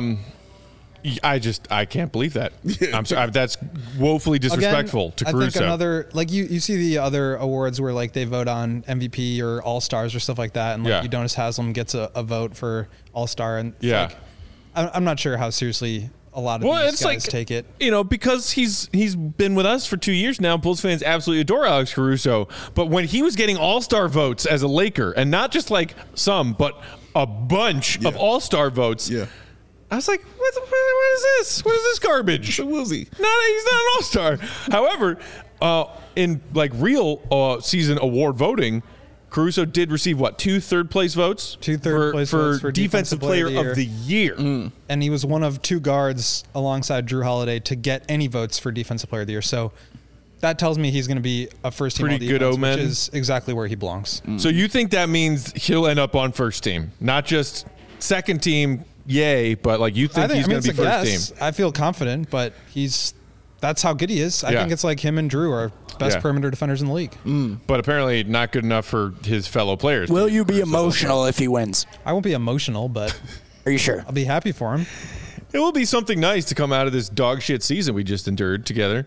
I can't believe that. Yeah. I'm sorry. That's woefully disrespectful to I Caruso. think another you see the other awards where they vote on MVP or All Stars or stuff like that, and Yeah. Udonis Haslem gets a vote for All Star, and it's Yeah. I'm not sure how seriously a lot of these guys take it. Because he's been with us for 2 years now. Bulls fans absolutely adore Alex Caruso. But when he was getting All-Star votes as a Laker, and not just some, but a bunch of All-Star votes, Yeah. I was like, what is this? What is this garbage? So Wilsey. He's not an All-Star. However, in real season award voting, Caruso did receive 2 third-place votes? 2 third-place votes for Defensive Player of the Year. And he was one of 2 guards alongside Drew Holiday to get any votes for Defensive Player of the Year. So that tells me he's going to be a first-team Pretty good All-Defense, omen. which is exactly where he belongs. So you think that means he'll end up on first team, not just second team? Yay! But you think he's going to be first team? I feel confident, but that's how good he is. I Yeah. think it's him and Drew are best Yeah. perimeter defenders in the league. But apparently not good enough for his fellow players. Will you be emotional if he wins? I won't be emotional, but Are you sure? I'll be happy for him. It will be something nice to come out of this dog shit season we just endured together.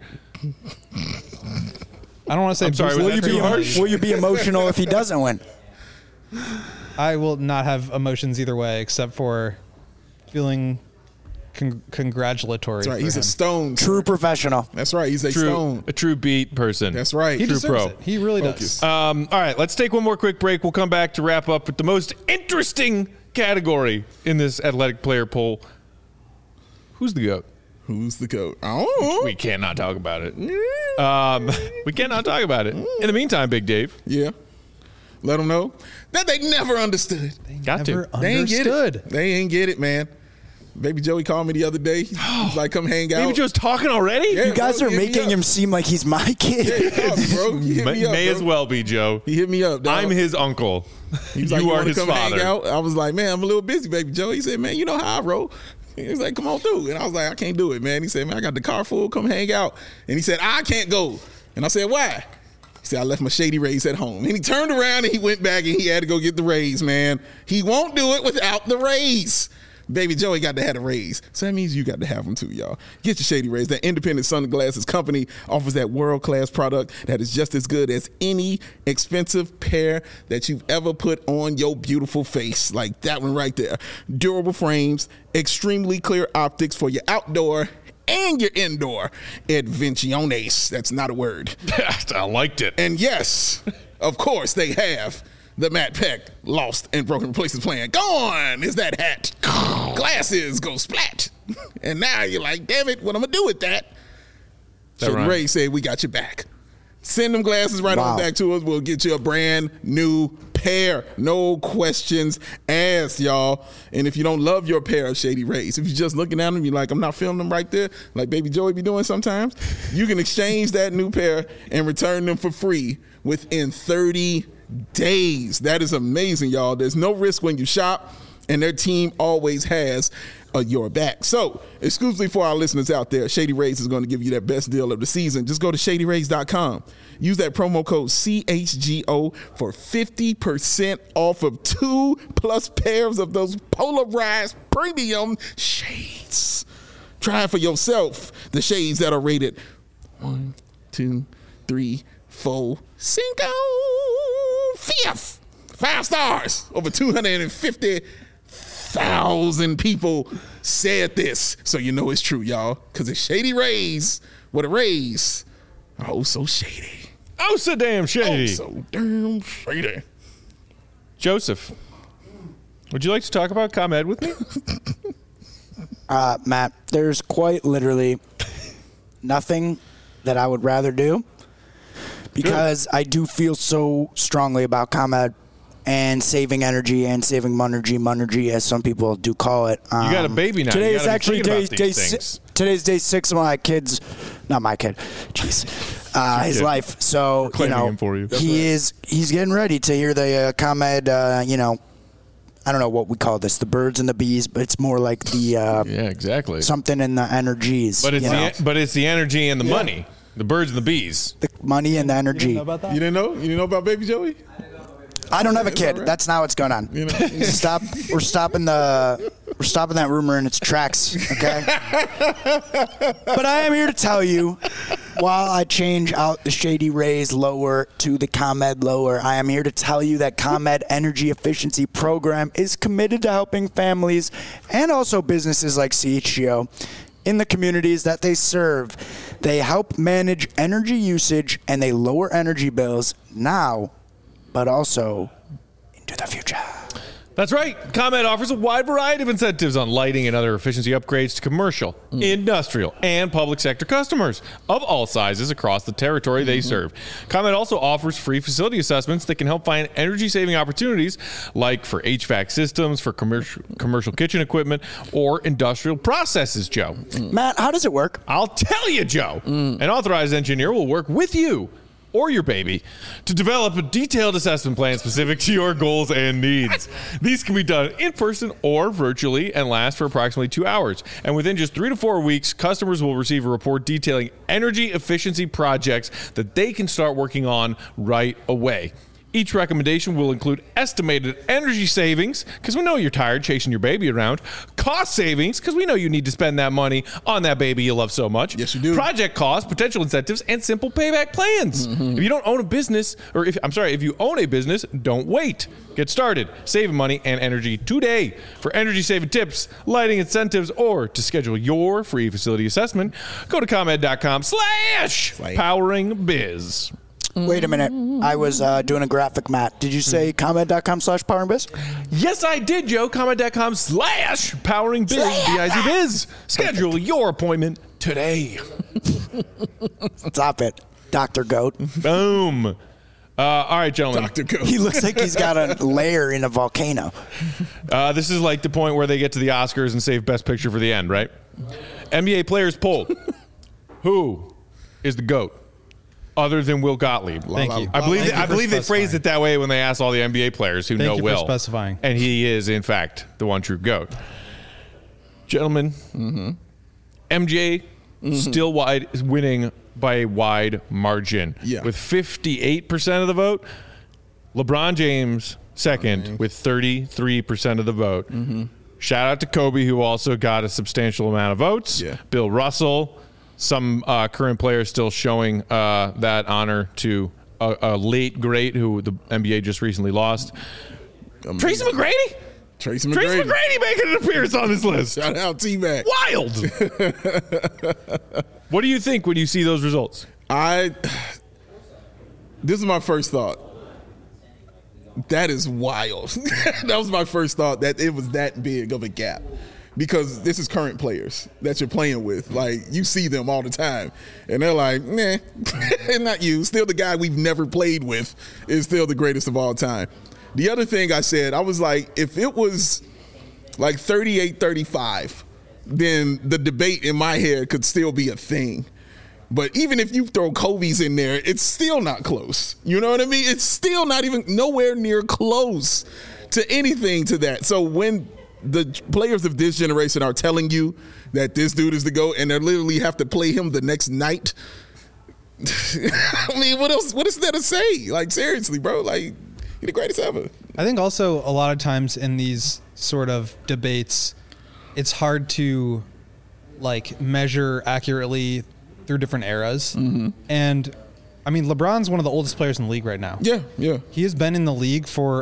I don't want to say. I'm sorry, boost was the that too team. harsh? Will you be emotional if he doesn't win? I will not have emotions either way, except for feeling congratulatory. That's right. for He's him. a stone. True professional. That's right. He's a stone. A true beat person. That's right. He True deserves pro. it. He really Focus. does. All right, let's take one more quick break. We'll come back to wrap up with the most interesting category in this athletic player poll. Who's the GOAT? Who's the GOAT? Oh, We cannot talk about it. We cannot talk about it. In the meantime, Big Dave, yeah. Let them know that they never understood. got Never to. They ain't get understood. it. They ain't get it, man. Baby Joey called me the other day. He's like, "Come hang out." Baby Joe's talking already? Yeah, You guys bro, are hit me making up. him seem like he's my Yeah, kid. he called me, bro. He hit me up, May bro. as well be, Joe. He hit me up. Dog. I'm his uncle. He was like, you "You are want to his come father. hang out?" I was like, "Man, I'm a little busy, Baby Joe." He said, "Man, you know how I roll." He was like, "Come on through," and I was like, "I can't do it, man." He said, "Man, I got the car full. Come hang out." And he said, "I can't go." And I said, "Why?" He said, "I left my Shady Rays at home." And he turned around and he went back and he had to go get the Rays, man. He won't do it without the Rays. Baby Joey got to have a raise. So that means you got to have them too, y'all. Get your Shady Rays. That independent sunglasses company offers that world-class product that is just as good as any expensive pair that you've ever put on your beautiful face. Like that one right there. Durable frames, extremely clear optics for your outdoor and your indoor adventiones. That's not a word. I liked it. And yes, of course they have the Matt Peck Lost and Broken Replacement plan. Gone is that hat. Glasses go splat. And now you're like, damn it, what I'm going to do with that? That Shady rhymes. Ray said, we got your back. Send them glasses right on Wow. back to us. We'll get you a brand new pair. No questions asked, y'all. And if you don't love your pair of Shady Rays, if you're just looking at them, you're like, I'm not filming them right there, like Baby Joey be doing sometimes, you can exchange that new pair and return them for free within 30 days. That is amazing, y'all. There's no risk when you shop, and their team always has your back. So, exclusively for our listeners out there, Shady Rays is going to give you that best deal of the season. Just go to ShadyRays.com. Use that promo code CHGO for 50% off of 2+ pairs of those polarized premium shades. Try it for yourself. The shades that are rated 1, 2, 3, 4, 5. 5 stars. Over 250,000 1,000 people said this. So you know it's true, y'all. Because it's Shady Rays. What a Rays. Oh, so shady. Oh, so damn shady. Oh, so damn shady. Joseph, would you like to talk about ComEd with me? Matt, there's quite literally nothing that I would rather do because I do feel so strongly about ComEd and saving energy and saving monergy, as some people do call it. You got a baby now. Today You is gotta be actually thinking about day these things. today's day 6 of my kids, not my kid, jeez, his kid. life. So claiming him for you. he's getting ready to hear the ComEd. I don't know what we call this, the birds and the bees, but it's more like the Yeah, exactly. something in the energies. But it's you know? but it's the energy and the money, the birds and the bees. The money and the energy. Know about that? You didn't know? You didn't know about Baby Joey? I don't have a kid. all right. That's not what's going on. You know? Stop. We're stopping that rumor in its tracks. Okay. But I am here to tell you, while I change out the Shady Rays lower to the ComEd lower, I am here to tell you that ComEd Energy Efficiency Program is committed to helping families and also businesses like CHGO in the communities that they serve. They help manage energy usage and they lower energy bills now, but also into the future. That's right. ComEd offers a wide variety of incentives on lighting and other efficiency upgrades to commercial, industrial, and public sector customers of all sizes across the territory they serve. ComEd also offers free facility assessments that can help find energy-saving opportunities like for HVAC systems, for commercial kitchen equipment, or industrial processes, Joe. Matt, how does it work? I'll tell you, Joe. An authorized engineer will work with you or your baby to develop a detailed assessment plan specific to your goals and needs. These can be done in person or virtually and last for approximately 2 hours. And within just 3 to 4 weeks, customers will receive a report detailing energy efficiency projects that they can start working on right away. Each recommendation will include estimated energy savings, because we know you're tired chasing your baby around, cost savings, because we know you need to spend that money on that baby you love so much. Yes, you do. Project costs, potential incentives, and simple payback plans. If you don't own a business, or if you own a business, don't wait. Get started saving money and energy today. For energy saving tips, lighting incentives, or to schedule your free facility assessment, go to ComEd.com/poweringbiz. Wait a minute. I was doing a graphic, Matt. Did you say ComEd.com/poweringbiz? Yes, I did, Joe. ComEd.com/poweringbiz. B-I-Z-biz. Schedule your appointment today. Stop it, Dr. Goat. Boom. All right, gentlemen. Dr. Go. He looks like he's got a lair in a volcano. This is like the point where they get to the Oscars and save Best Picture for the end, right? NBA players polled. Who is the GOAT? Other than Will Gottlieb. Thank you. I believe Thank you for they phrased specifying. it that way when they asked all the NBA players who Thank know you for Will. specifying. And he is, in fact, the one true GOAT. Gentlemen, MJ still winning by a wide margin. Yeah. With 58% of the vote. LeBron James second with 33% of the vote. Shout out to Kobe, who also got a substantial amount of votes. Yeah. Bill Russell. Some current players still showing that honor to a late great who the NBA just recently lost. Tracy McGrady? Tracy Tracy McGrady. McGrady making an appearance on this list. Shout out T-Mac. Wild. What do you think when you see those results? This is my first thought. That is wild. That was my first thought, that it was that big of a gap. Because this is current players that you're playing with. Like, you see them all the time. And they're like, nah, not you. Still the guy we've never played with is still the greatest of all time. The other thing I said, I was like, if it was like 38-35, then the debate in my head could still be a thing. But even if you throw Kobe's in there, it's still not close. You know what I mean? It's still not even nowhere near close to anything to that. So when the players of this generation are telling you that this dude is the GOAT and they literally have to play him the next night, I mean, what else? What is there to say? Like, seriously, bro, like, you're the greatest ever. I think also a lot of times in these sort of debates, it's hard to like measure accurately through different eras. And I mean, LeBron's one of the oldest players in the league right now. Yeah, yeah. He has been in the league for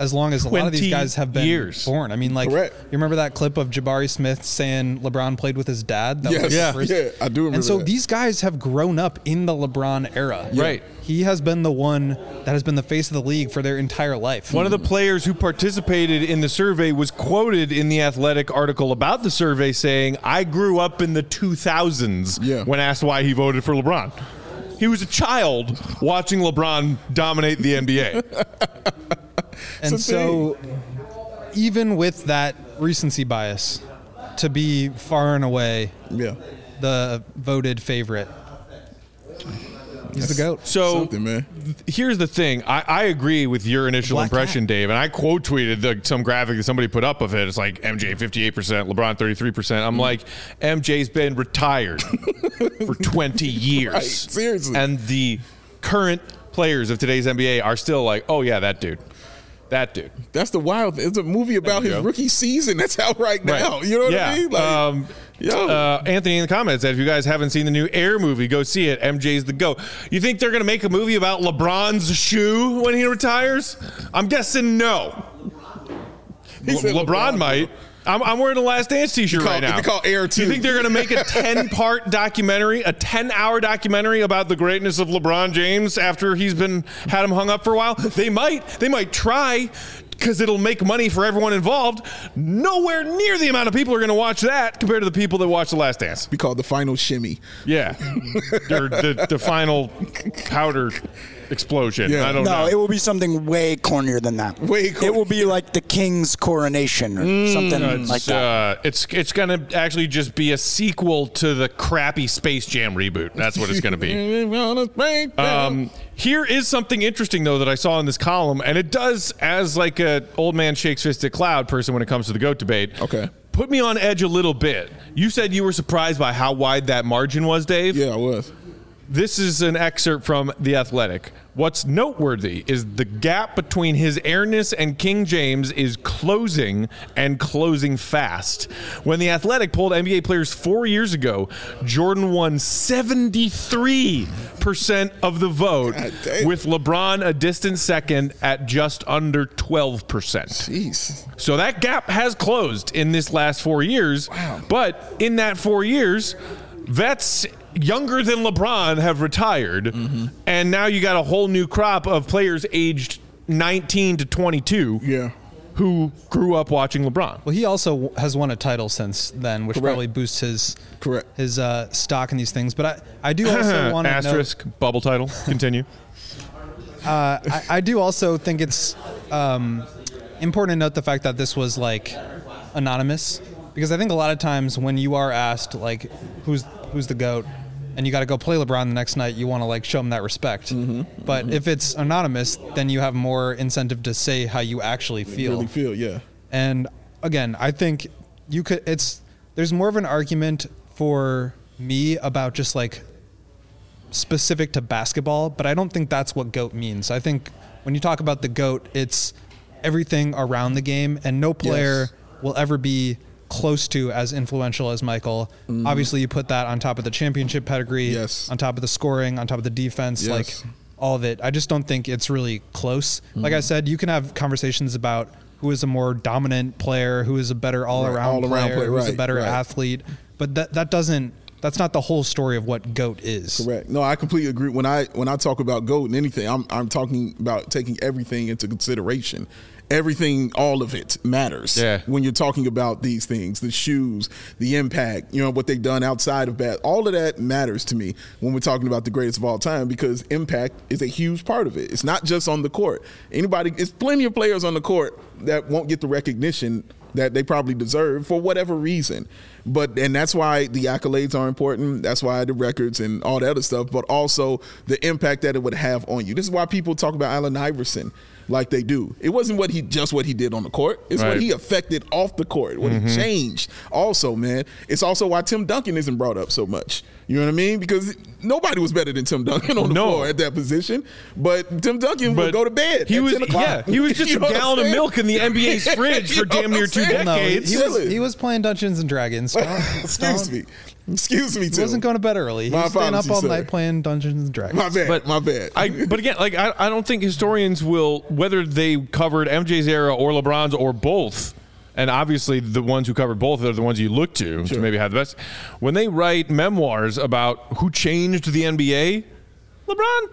as long as a lot of these guys have been born. I mean, like, Correct. you remember that clip of Jabari Smith saying LeBron played with his dad? That Yes. was the first- Yeah, I do remember And so that. these guys have grown up in the LeBron era. Right. He has been the one that has been the face of the league for their entire life. One of the players who participated in the survey was quoted in the Athletic article about the survey saying, "I grew up in the 2000s," when asked why he voted for LeBron. He was a child watching LeBron dominate the NBA. And so even with that recency bias, to be far and away the voted favorite, he's the GOAT. So man. Here's the thing. I agree with your initial impression, Dave, and I quote tweeted some graphic that somebody put up of it. It's like MJ 58%, LeBron 33%. I'm like, MJ's been retired for 20 years. Right, seriously. And the current players of today's NBA are still like, oh yeah, that dude. That dude. That's the wild thing. It's a movie about his rookie season that's out right now. Right. You know what I mean? Like, Anthony in the comments said, if you guys haven't seen the new Air movie, go see it. MJ's the GOAT. You think they're going to make a movie about LeBron's shoe when he retires? I'm guessing no. LeBron might. I'm wearing a Last Dance t-shirt right now. They call Air 2. You think they're going to make a 10-part documentary, a 10-hour documentary about the greatness of LeBron James after he's had him hung up for a while? They might. They might try because it'll make money for everyone involved. Nowhere near the amount of people are going to watch that compared to the people that watch The Last Dance. Be called the final shimmy. Yeah. Or the final powder explosion. I don't know. No, it will be something way cornier than that. It will be like the king's coronation or something like that. It's going to actually just be a sequel to the crappy Space Jam reboot. That's what it's going to be. Here is something interesting, though, that I saw in this column, and it does, as like a old man shakes fist at cloud person when it comes to the GOAT debate, put me on edge a little bit. You said you were surprised by how wide that margin was, Dave? Yeah, I was. This is an excerpt from The Athletic. What's noteworthy is the gap between his airness and King James is closing and closing fast. When The Athletic polled NBA players 4 years ago, Jordan won 73% of the vote, with LeBron a distant second at just under 12%. Jeez. So that gap has closed in this last 4 years. Wow. But in that 4 years, vets younger than LeBron have retired, and now you got a whole new crop of players aged 19 to 22 who grew up watching LeBron. Well, he also has won a title since then, which probably boosts his stock in these things. But I do also want to asterisk bubble title. Continue. I do also think it's important to note the fact that this was like anonymous, because I think a lot of times when you are asked like who's the GOAT, and you got to go play LeBron the next night, you want to like show him that respect. But if it's anonymous, then you have more incentive to say how you actually feel. Really feel, yeah. And again, I think there's more of an argument for me about just like specific to basketball, but I don't think that's what GOAT means. I think when you talk about the GOAT, it's everything around the game, and no player will ever be close to as influential as Michael. Obviously, you put that on top of the championship pedigree, on top of the scoring, on top of the defense, like all of it. I just don't think it's really close. Like I said, you can have conversations about who is a more dominant player, who is a better all-around player, who's a better athlete, but that's not the whole story of what GOAT is. Correct. No, I completely agree. When I talk about GOAT and anything, I'm talking about taking everything into consideration. Everything, all of it matters when you're talking about these things, the shoes, the impact, what they've done outside of all of that matters to me when we're talking about the greatest of all time, because impact is a huge part of it. It's not just on the court. It's plenty of players on the court that won't get the recognition that they probably deserve for whatever reason. And that's why the accolades are important. That's why the records and all that other stuff, but also the impact that it would have on you. This is why people talk about Allen Iverson like they do. It wasn't what he did on the court. It's what he affected off the court, what he changed. Also, man, it's also why Tim Duncan isn't brought up so much. You know what I mean? Because nobody was better than Tim Duncan on the floor at that position. But Tim Duncan would go to bed. He was just a gallon of milk in the NBA's fridge for damn near 2 decades. He was playing Dungeons and Dragons. Excuse me. Excuse me, He too. wasn't going to bed early. He My was staying up apologies, all sir. night playing Dungeons and Dragons. My bad. But- my bad. But again, like I don't think historians will, whether they covered MJ's era or LeBron's or both, and obviously the ones who covered both are the ones you look to maybe have the best. When they write memoirs about who changed the NBA, LeBron.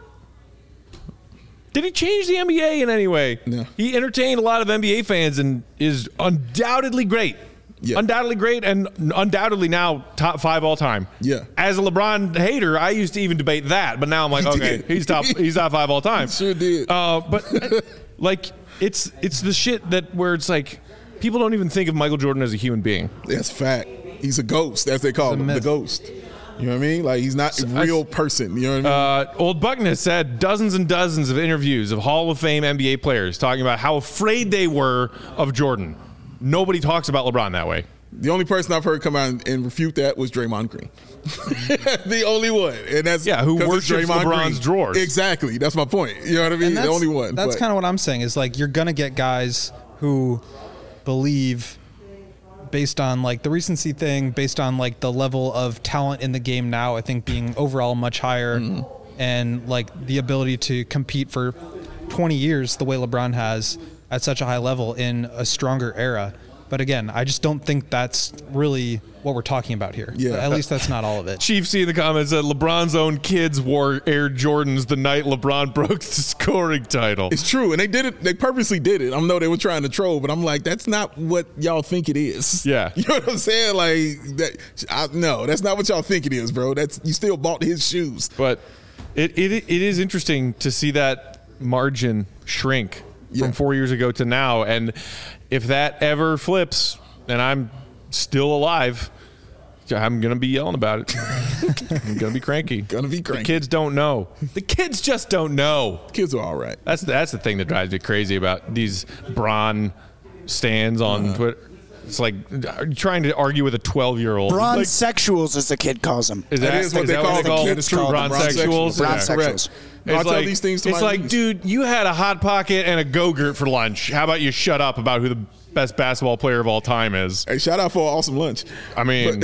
Did he change the NBA in any way? No. He entertained a lot of NBA fans and is undoubtedly great. Yeah. Undoubtedly great and undoubtedly now top 5 all time. Yeah. As a LeBron hater, I used to even debate that, but now I'm like, He okay, did. he's top 5 all time. Sure did. But like it's the shit that where it's like people don't even think of Michael Jordan as a human being. That's fact. He's a ghost, as they call him, the myth. ghost. You know what I mean? Like, he's not a real person. You know what I mean? Old Buckness had dozens and dozens of interviews of Hall of Fame NBA players talking about how afraid they were of Jordan. Nobody talks about LeBron that way. The only person I've heard come out and refute that was Draymond Green. The only one. And that's who 'cause it's worships Draymond LeBron's Green. drawers. Exactly. That's my point. You know what I mean? And The only one. That's But- kind of what I'm saying is like you're gonna get guys who believe based on like the recency thing, based on like the level of talent in the game now, I think being overall much higher and like the ability to compete for 20 years the way LeBron has at such a high level in a stronger era. But again, I just don't think that's really what we're talking about here. Yeah. At least that's not all of it. Chief C in the comments said LeBron's own kids wore Air Jordans the night LeBron broke the scoring title. It's true, and they did it. They purposely did it. I know they were trying to troll, but I'm like, that's not what y'all think it is. Yeah. You know what I'm saying? Like that. No, that's not what y'all think it is, bro. That's you still bought his shoes. But it is interesting to see that margin shrink from 4 years ago to now. And if that ever flips and I'm still alive, I'm going to be yelling about it. I'm going to be cranky. Gonna be cranky. The kids don't know. The kids just don't know. Kids are all right. That's the thing that drives me crazy about these Bron stands on Twitter. It's like trying to argue with a 12-year-old. Bronze Like, sexuals, as the kid calls them. is That is what they call them. Kids true call them bronzexuals? bronzexuals. Yeah. Bronzexuals. No, I It's tell like, these things to it's my like, niece. dude, you had a Hot Pocket and a Go-Gurt for lunch. How about you shut up about who the best basketball player of all time is? Hey, shout out for an awesome lunch. I mean,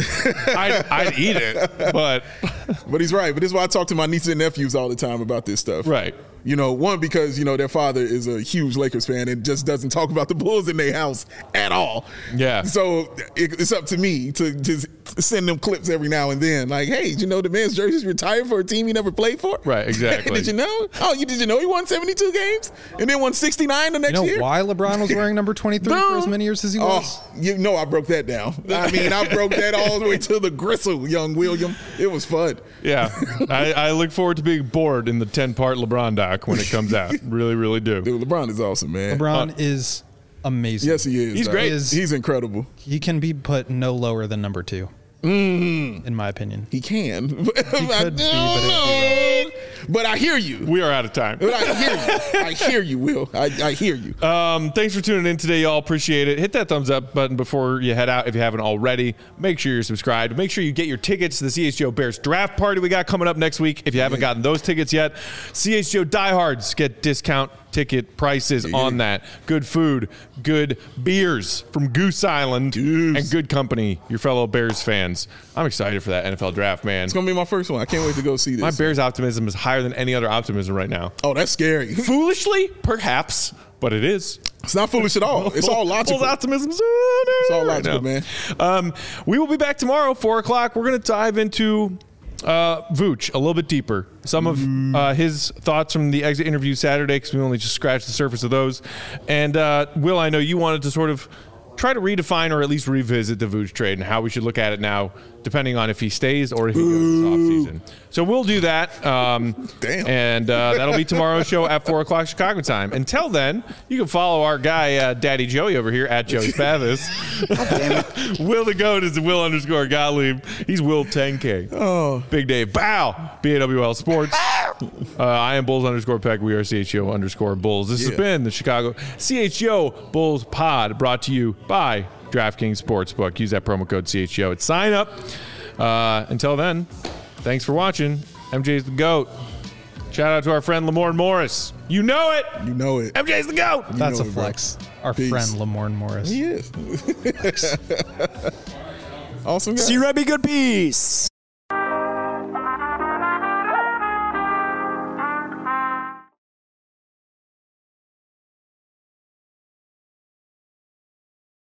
I'd eat it, but But he's right. But this is why I talk to my nieces and nephews all the time about this stuff. right. You know, one, because, you know, their father is a huge Lakers fan and just doesn't talk about the Bulls in their house at all. Yeah. So it's up to me to just send them clips every now and then. Like, hey, did you know the man's jersey's retired for a team he never played for? Right, exactly. Did you know? Oh, did you know he won 72 games and then won 69 the next You know year? why LeBron was wearing number 23 for as many years as he was? Oh, you know I broke that down. I mean, I broke that all the way to the gristle, young William. It was fun. Yeah. I look forward to being bored in the 10-part LeBron doc when it comes out. Really, really do. Dude, LeBron is awesome, man. LeBron is amazing. Yes, he is. He's dog. great. He's incredible. He can be put no lower than number 2, in my opinion. He can. He could be, but But I hear you. We are out of time. But I hear you. I hear you, Will. I hear you. Thanks for tuning in today, y'all. Appreciate it. Hit that thumbs up button before you head out if you haven't already. Make sure you're subscribed. Make sure you get your tickets to the CHGO Bears draft party we got coming up next week. If you haven't gotten those tickets yet, CHGO diehards get discount ticket prices on that. Good food, good beers from Goose Island, and good company, your fellow Bears fans. I'm excited for that NFL draft, man. It's going to be my first one. I can't wait to go see this. My Bears optimism is higher than any other optimism right now. Oh, that's scary. Foolishly, perhaps, but it is. It's not foolish at all. It's all logical. Bulls optimism. It's all logical, man. We will be back tomorrow, 4 o'clock. We're going to dive into Vooch a little bit deeper. Some of his thoughts from the exit interview Saturday, because we only just scratched the surface of those. And Will, I know you wanted to sort of try to redefine or at least revisit the Vooch trade and how we should look at it now, depending on if he stays or if he goes this offseason. So we'll do that. Damn. And that'll be tomorrow's show at 4 o'clock Chicago time. Until then, you can follow our guy, Daddy Joey over here, at Joey Spathis. Will the Goat is Will_Gottlieb. He's Will 10K. Oh. Big Dave. Bow. BAWL Sports. I am Bulls_Peck. We are CHGO_Bulls. This has been the Chicago CHGO Bulls Pod, brought to you by DraftKings Sportsbook. Use that promo code CHGO at sign up. Until then, thanks for watching. MJ's the GOAT. Shout out to our friend Lamorne Morris. You know it. You know it. MJ's the GOAT. That's know a it, bro. flex. Our Peace. friend Lamorne Morris. He is. Awesome guy. See you, Rebby. Good peace.